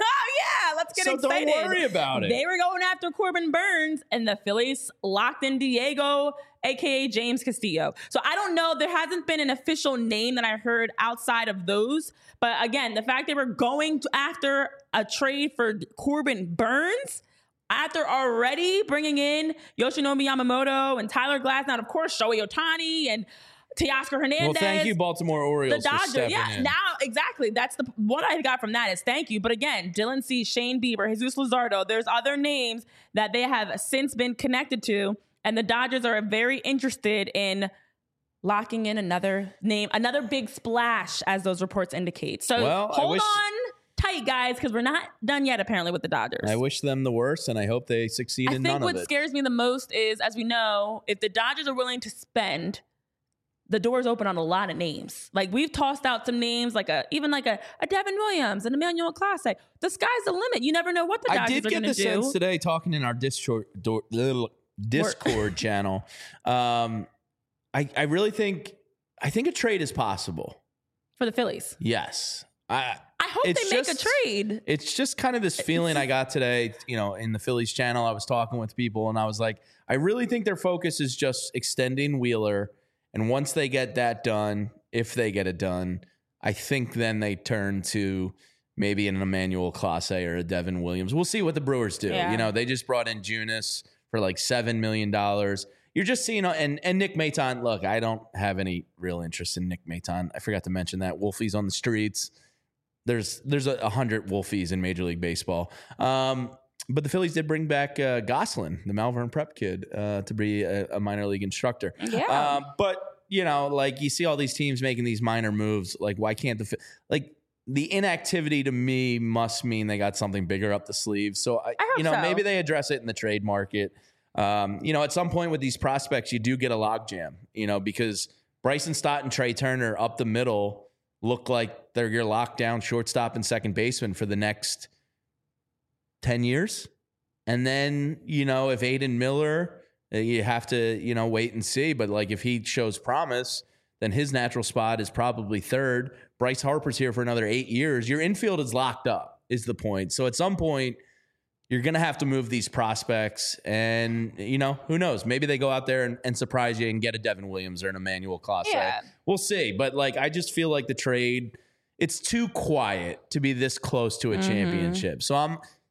yeah, let's get So don't excited. worry about it. They were going after Corbin Burns, and the Phillies locked in Diego, a k a. James Castillo. So I don't know. There hasn't been an official name that I heard outside of those. But again, the fact they were going to after a trade for Corbin Burns, after already bringing in Yoshinobu Yamamoto and Tyler Glasnow, and of course, Shohei Ohtani and Teoscar Hernandez. Well, thank you, Baltimore Orioles, The for Dodgers, stepping yeah. in. Now, exactly. That's the what I got from that is thank you. But again, Dylan Cease, Shane Bieber, Jesus Luzardo. There's other names that they have since been connected to, and the Dodgers are very interested in locking in another name, another big splash, as those reports indicate. So Well, I hold wish- on tight, guys, because we're not done yet. Apparently, with the Dodgers. I wish them the worst, and I hope they succeed I in think none what of it. scares me the most is, as we know, if the Dodgers are willing to spend, the door's open on a lot of names. Like we've tossed out some names, like a even like a, a Devin Williams, an Emmanuel Clase. The sky's the limit. You never know what the I Dodgers did are get going the to do. sense today, talking in our Discord, do- little Discord channel. Um, I, I really think I think a trade is possible. For the Phillies. Yes, I. I hope It's they make just- a trade. It's just kind of this feeling I got today, you know, in the Phillies channel. I was talking with people and I was like, I really think their focus is just extending Wheeler. And once they get that done, if they get it done, I think then they turn to maybe an Emmanuel Clase or a Devin Williams. We'll see what the Brewers do. Yeah. You know, they just brought in Junis for like seven million dollars. You're just seeing, and, and Nick Maton, look, I don't have any real interest in Nick Maton. I forgot to mention that. Wolfie's on the streets. There's there's a, a hundred Wolfies in Major League Baseball. Um, but the Phillies did bring back uh, Goslin, the Malvern Prep kid, uh, to be a, a minor league instructor. Yeah. Um, but, you know, like you see all these teams making these minor moves. Like, why can't the – like the inactivity to me must mean they got something bigger up the sleeve. So, I, I hope you know, so. maybe they address it in the trade market. Um, you know, at some point with these prospects, you do get a logjam, you know, because Bryson Stott and Trey Turner up the middle look like they're your lockdown shortstop and second baseman for the next ten years. And then, you know, if Aiden Miller, you have to, you know, wait and see. But like if he shows promise, then his natural spot is probably third. Bryce Harper's here for another eight years. Your infield is locked up, is the point. So at some point, you're going to have to move these prospects. And, you know, who knows? Maybe they go out there and, and surprise you and get a Devin Williams or an Emmanuel Clase. Yeah. We'll see. But, like, I just feel like the trade, it's too quiet to be this close to a Mm-hmm. championship. So I'm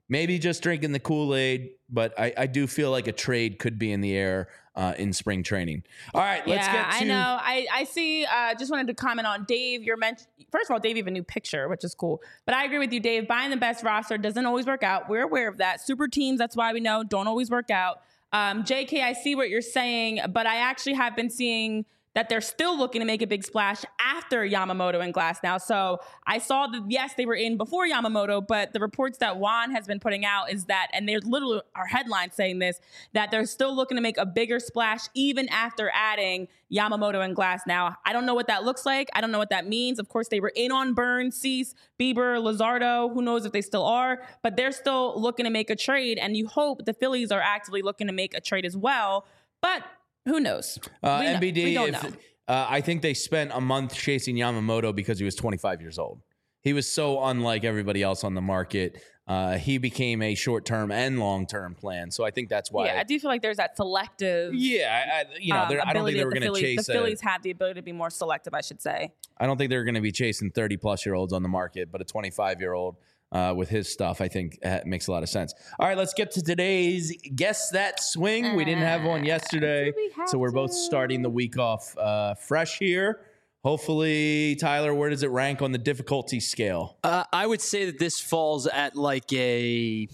maybe just drinking the Kool-Aid, but I, I do feel like a trade could be in the air uh, in spring training. All right, let's yeah, get to. I know. I, I see. Uh, just wanted to comment on Dave. You're meant. First of all, Dave, you have a new picture, which is cool. But I agree with you, Dave. Buying the best roster doesn't always work out. We're aware of that. Super teams, that's why we know, don't always work out. Um, J K, I see what you're saying, but I actually have been seeing that they're still looking to make a big splash after Yamamoto and Glass now. So I saw that, yes, they were in before Yamamoto, but the reports that Juan has been putting out is that, and there's literally our headlines saying this, that they're still looking to make a bigger splash even after adding Yamamoto and Glass now. I don't know what that looks like. I don't know what that means. Of course, they were in on Burns, Cease, Bieber, Luzardo. Who knows if they still are, but they're still looking to make a trade, and you hope the Phillies are actively looking to make a trade as well. But who knows? Uh, We know- N B D, we don't if, know. uh, I think they spent a month chasing Yamamoto because he was twenty-five years old. He was so unlike everybody else on the market. Uh, he became a short-term and long-term plan. So I think that's why. Yeah, I do feel like there's that selective. Yeah, I, I- you know, um, they're- I don't think ability they of were the going to Phillies. chase. The a- Phillies have the ability to be more selective, I should say. I don't think they're going to be chasing thirty-plus-year-olds on the market, but a twenty-five-year-old uh, with his stuff, I think, uh, makes a lot of sense. All right, let's get to today's Guess That Swing. We didn't have one yesterday, do we have so we're both to? starting the week off uh, fresh here. Hopefully, Tyler, where does it rank on the difficulty scale? Uh, I would say that this falls at like a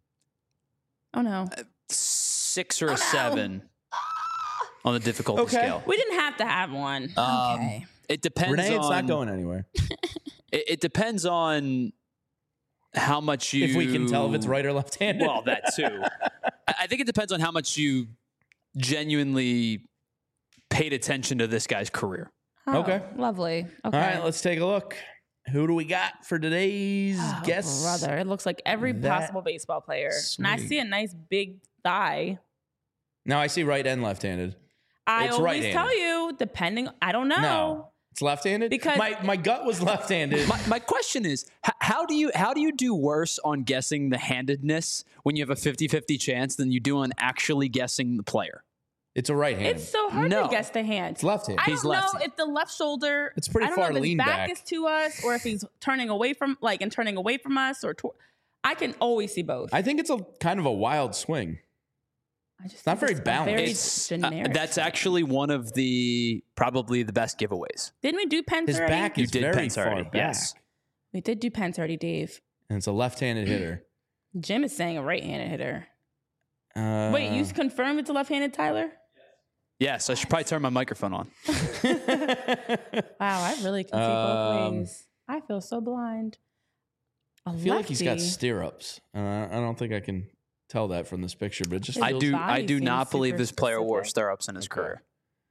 Oh no, six or a seven on the difficulty Okay. scale. we didn't have to have one. Um, okay. It depends Renee, it's on. not going anywhere. It, it depends on how much you. If we can tell if it's right or left-handed. Well, that too. I I think it depends on how much you genuinely paid attention to this guy's career. Oh, okay. Lovely. Okay. All right, let's take a look. Who do we got for today's Oh, guess? brother, it looks like every that possible baseball player, and I swing. see a nice big thigh. Now I see right and left-handed. I It's always right-handed. tell you, depending. I don't know. No, it's left-handed. Because- my my gut was left-handed. My, my question is, h- how do you how do you do worse on guessing the handedness when you have a fifty-fifty chance than you do on actually guessing the player? It's a right-handed. It's so hard No. to guess the hand. It's left-handed. I He's don't know lefty. if the left shoulder. It's pretty I don't far know if his lean back, back. is to us, or if he's turning away from, like, and turning away from us, or to, I can always see both. I think it's a kind of a wild swing. I just not think very it's a balanced. Very It's uh, generic. that's actually one of the probably the best giveaways. Didn't we do Pence His already? back You is did very Pence far already, back. yes. We did do Pence already, Dave. And it's a left-handed hitter. Jim is saying a right-handed hitter. Uh, Wait, you confirmed it's a left-handed, Tyler? Yes, I should probably turn my microphone on. Wow, I really can see Um, both ways. I feel so blind. A I feel like he's got lefty. stirrups. Uh, I don't think I can tell that from this picture, but it just His I feels. do. body I do seems not believe super this player wore specific. stirrups in his Okay. career.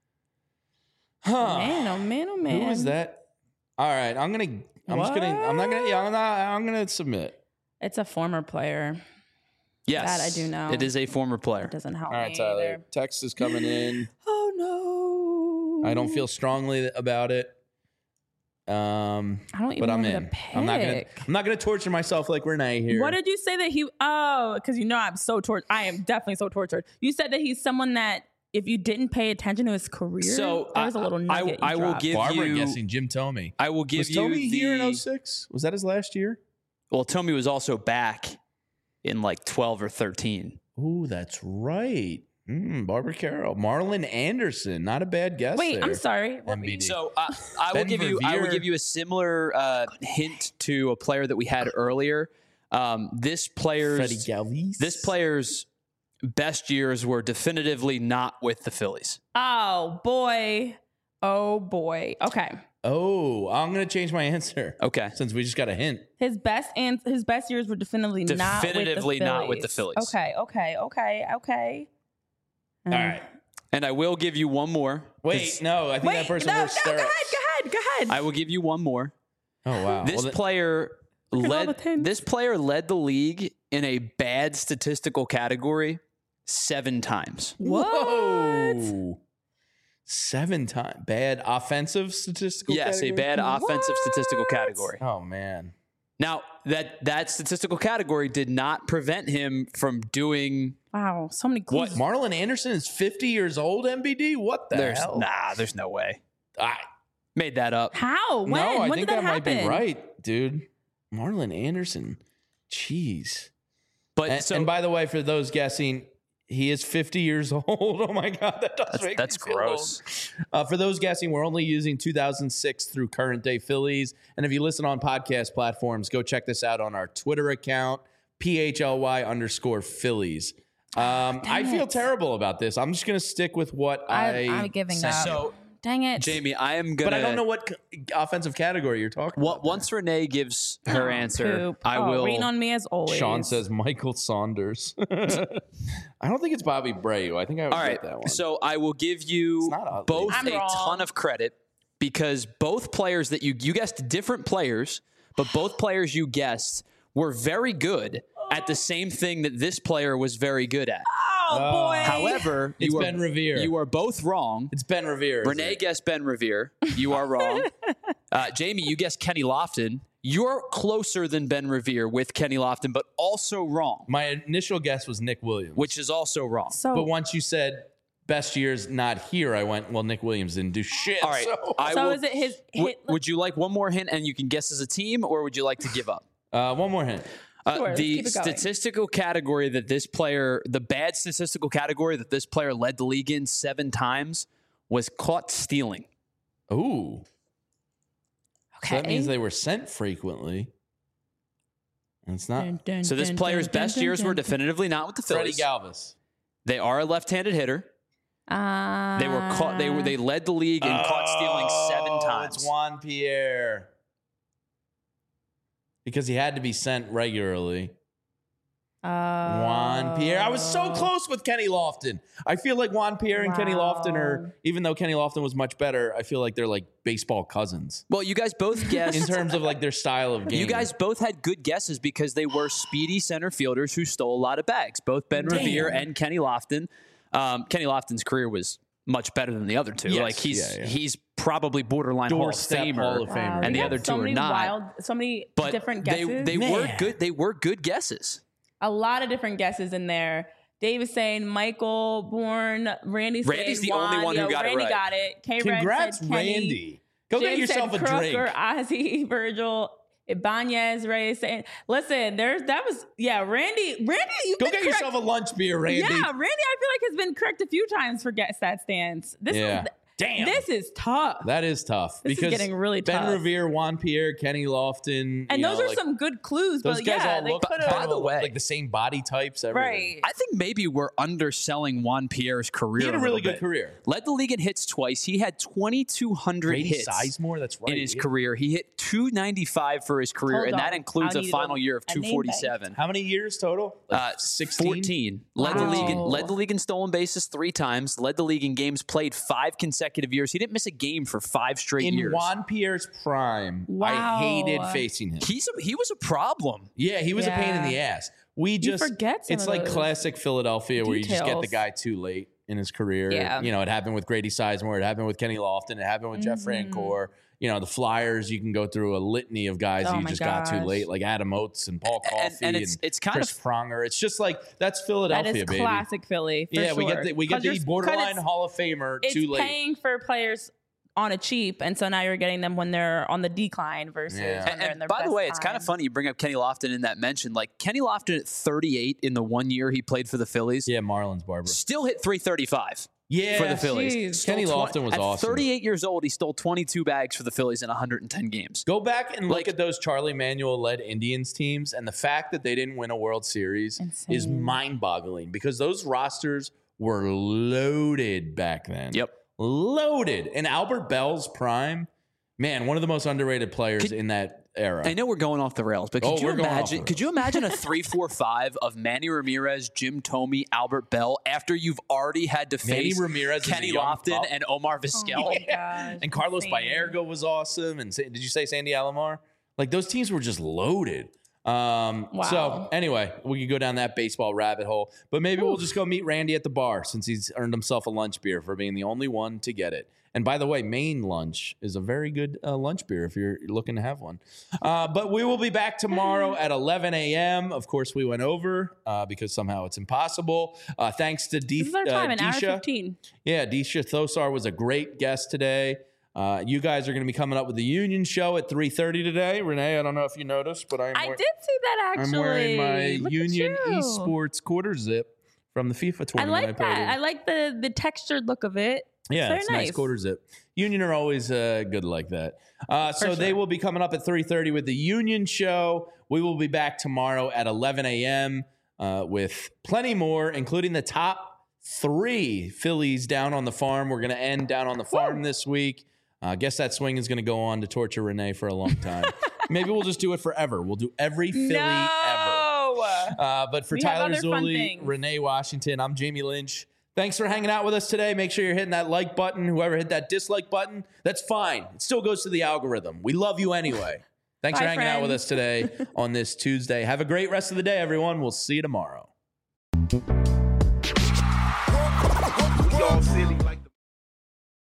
Huh. Man, oh man, oh man. Who is that? All right, I'm gonna. I'm just gonna. I'm not gonna. Yeah, I'm not. I'm gonna submit. It's a former player. Yes, That I do know. It is a former player. It doesn't help All right, me Tyler. either. Text is coming in. Oh no. I don't feel strongly about it. Um, I don't even but I'm know who in. to I'm not gonna. pick. I'm not gonna torture myself like Renee here. What did you say that he? Oh, because you know I'm so tortured. I am definitely so tortured. You said that he's someone that if you didn't pay attention to his career, So, there was a I- little I- nugget. you I will dropped. give Barbara you- guessing Jim Tomey. I will give Was you Tomey the. here in oh six? Was that his last year? Well, Tommy was also back in like twelve or thirteen. Oh, that's right. Mm, Barbara Carroll, Marlon Anderson. Not a bad guess. Wait, there. I'm sorry. M B D. So uh, I will Ben give you. I will Verveer. give you a similar uh, hint to a player that we had earlier. Um, this player's Freddie Galvis. this player's best years were definitively not with the Phillies. Oh boy. Oh boy. Okay. Oh, I'm gonna change my answer Okay. since we just got a hint. His best and his best years were definitively, Definitively not not with with the the Phillies. Phillies. Okay. Okay. Okay. Okay. All right. And I will give you one more. Wait, 'cause no, I think Wait. that person no. No. wore Go stirrups. ahead. Go ahead. Go ahead. I will give you one more. Oh wow. This Well, th- player at all the led tints. this player led the league in a bad statistical category seven times. What? Whoa. Seven times bad offensive statistical. Yes, a category? bad offensive statistical category. Oh man. Now, that that statistical category did not prevent him from doing Wow. So many clues. What? Marlon Anderson is fifty years old. M B D. What the there's hell? nah, there's no way. I, Made that up. How? When? no, I when think did that, that, might happen? be right, dude. Marlon Anderson. Jeez. But And, so and by the way, for those guessing, he is fifty years old. Oh my God, that does that's, make that's me feel gross. old. Uh, for those guessing, we're only using two thousand six through current day Phillies. And if you listen on podcast platforms, go check this out on our Twitter account, P H L Y underscore Phillies. Um, I feel it. terrible about this. I'm just going to stick with what I. I, I'm giving up. So, Dang it. Jamie, I am gonna. but I don't know what c- offensive category you're talking What, about. once Renee gives her answer, Poop. I oh, will. Rain on me as always. Sean says Michael Saunders. I don't think it's Bobby Breu. I think I would All right, get that one. so I will give you It's not ugly. both I'm a wrong. ton of credit because both players that you you guessed different players, but both players you guessed were very good at the same thing that this player was very good at. Oh, boy. However, It's you are, Ben Revere. You are both wrong. It's Ben Revere. isn't Renee it? guessed Ben Revere. You are wrong. uh, Jamie, you guessed Kenny Lofton. You're closer than Ben Revere with Kenny Lofton, but also wrong, My initial guess was Nick Williams. which is also wrong. So, But once you said best years not here, I went, well, Nick Williams didn't do shit. All right, So, I so will, is it his w- hit? would you like one more hint and you can guess as a team, or would you like to give up? uh, one more hint. Uh, Sure, let's the keep it going. statistical category that this player, the bad statistical category that this player led the league in seven times was caught stealing. Ooh. okay. So that means they were sent frequently. And it's not Dun, dun, So this dun, player's dun, best dun, years dun, were dun. definitively not with the Freddie Phillies. Galvis. They are a left-handed hitter. Uh, They were caught. They were. They led the league in caught stealing seven Oh, times. It's Juan Pierre. Because he had to be sent regularly. Uh, Juan Pierre. I was so close with Kenny Lofton. I feel like Juan Pierre and Kenny Lofton Wow. are, even though Kenny Lofton was much better, I feel like they're like baseball cousins Well, you guys both guessed. in terms of like their style of game. You guys both had good guesses because they were speedy center fielders who stole a lot of bags. Both Ben Damn. Revere and Kenny Lofton. Um, Kenny Lofton's career was much better than the other two. Yes. Like he's Yeah, yeah. he's probably borderline Hall of Doorstep Famer. Hall of Wow, Famer. we And the got other two so are many not. Wild, so many But different they guesses. they were Man. good. They were good guesses. a lot of different guesses in there. Dave is saying Michael, Bourne, Randy's Randy's saying the only Juan. one who Yo, got it Randy right. got it. K-Red Congrats, said Kenny. Randy. Go get Jim yourself a said drink. Crooker, Ozzy, Virgil, Ibanez, Ray saying, listen, there's that was yeah, Randy, Randy, you Go get yourself a lunch beer, Randy. Yeah, Randy, I feel like has been correct a few times for Get Stat Stance. This Yeah. is Damn. this is tough. That is tough. This is because getting really Ben tough. Revere, Juan Pierre, Kenny Lofton. and you those know, are like, some good clues, Those but guys yeah, all they look could kind By have the of way- like the same body types. Everything. right. I think maybe we're underselling Juan Pierre's career. He had a little really good bit. career. Led the league in hits twice. He had twenty-two hundred Grady hits Sizemore, that's right. in his Yeah. career. He hit two ninety-five for his career, Hold and that on. includes I a need final a- year of a name two forty-seven. How many years total? Like Uh, sixteen? fourteen. Led the league in Wow. led the league in stolen bases three times. Led the league in games played five consecutive years. He didn't miss a game for five straight In years. Juan Pierre's prime, I Wow. hated facing him. He's a, he was a problem. Yeah, he was a pain in Yeah. the ass. We just forget some it's of like those classic Philadelphia where you just get the details. guy too late in his career. Yeah. You know, it happened with Grady Sizemore, it happened with Kenny Lofton, it happened with Jeff Mhm. Francoeur. You know, the Flyers, you can go through a litany of guys Oh that you my just got too gosh. late, like Adam Oates and Paul Coffey And, and it's it's kind Chris of Pronger. It's just like that's That Philadelphia, is baby. classic Philly. For Yeah, we sure. get the, we get 'Cause the you're- 'cause borderline it's- Hall of Famer It's too late. paying for players on a cheap, and so now you're getting them when they're on the decline versus Yeah. when And, they're in and their by the best way, it's kind of time. funny you bring up Kenny Lofton in that mention. Like Kenny Lofton at thirty-eight in the one year he played for the Phillies, Yeah, Marlins Barber. still hit three thirty-five Yeah, for the Phillies. Jeez. Stole Kenny twen- Lofton was at awesome. thirty-eight years old, he stole twenty-two bags for the Phillies in one hundred ten games. Go back and look Like- at those Charlie Manuel led Indians teams, and the fact that they didn't win a World Series Insane. is mind boggling because those rosters were loaded back then. Yep. Loaded. And Albert Bell's prime, man, one of the most underrated players Could- in that era. I know we're going off the rails, but could Oh, you we're going off imagine? the Could you imagine a three, four, five of Manny Ramirez, Jim Thome, Albert Bell after you've already had to Manny face Ramirez is a Kenny young Lofton pup. and Omar Oh Vizquel? my gosh, And Carlos insane. Baerga was awesome. And Sa- did you say Sandy Alomar? Like those teams were just loaded. Um, Wow. So anyway, we could go down that baseball rabbit hole, but maybe we'll just go meet Randy at the bar since he's earned himself a lunch beer for being the only one to get it. And by the way, Maine lunch is a very good uh, lunch beer if you're looking to have one. Uh, but we will be back tomorrow at eleven a.m. Of course, we went over uh, because somehow it's impossible. Uh, thanks to D- This is our time, uh, an hour Disha. fifteen. Yeah, Disha Thosar was a great guest today. Uh, you guys are going to be coming up with the Union Show at three thirty today. Renee, I don't know if you noticed, but I'm I wear- did see that actually. I'm wearing my Look at Union you. Esports quarter zip from the FIFA I tournament. like played that. in. I like the the textured look of it. Yeah, very it's a nice. nice. quarter zip. Union are always uh, good like that. Uh, so sure. they will be coming up at three thirty with the Union Show. We will be back tomorrow at eleven a.m. Uh, with plenty more, including the top three Phillies down on the farm. We're going to end down on the farm Woo. this week. I uh, guess that swing is going to go on to torture Renee for a long time. Maybe we'll just do it forever. We'll do every Philly no. ever. Uh, but for We have Tyler other fun Zulli, things. Renee Washington, I'm Jamie Lynch. Thanks for hanging out with us today. Make sure you're hitting that like button. Whoever hit that dislike button, that's fine. It still goes to the algorithm. We love you anay. Thanks Bye, for hanging out with friends. us today on this Tuesday. Have a great rest of the day, everyone. We'll see you tomorrow. Y'all silly.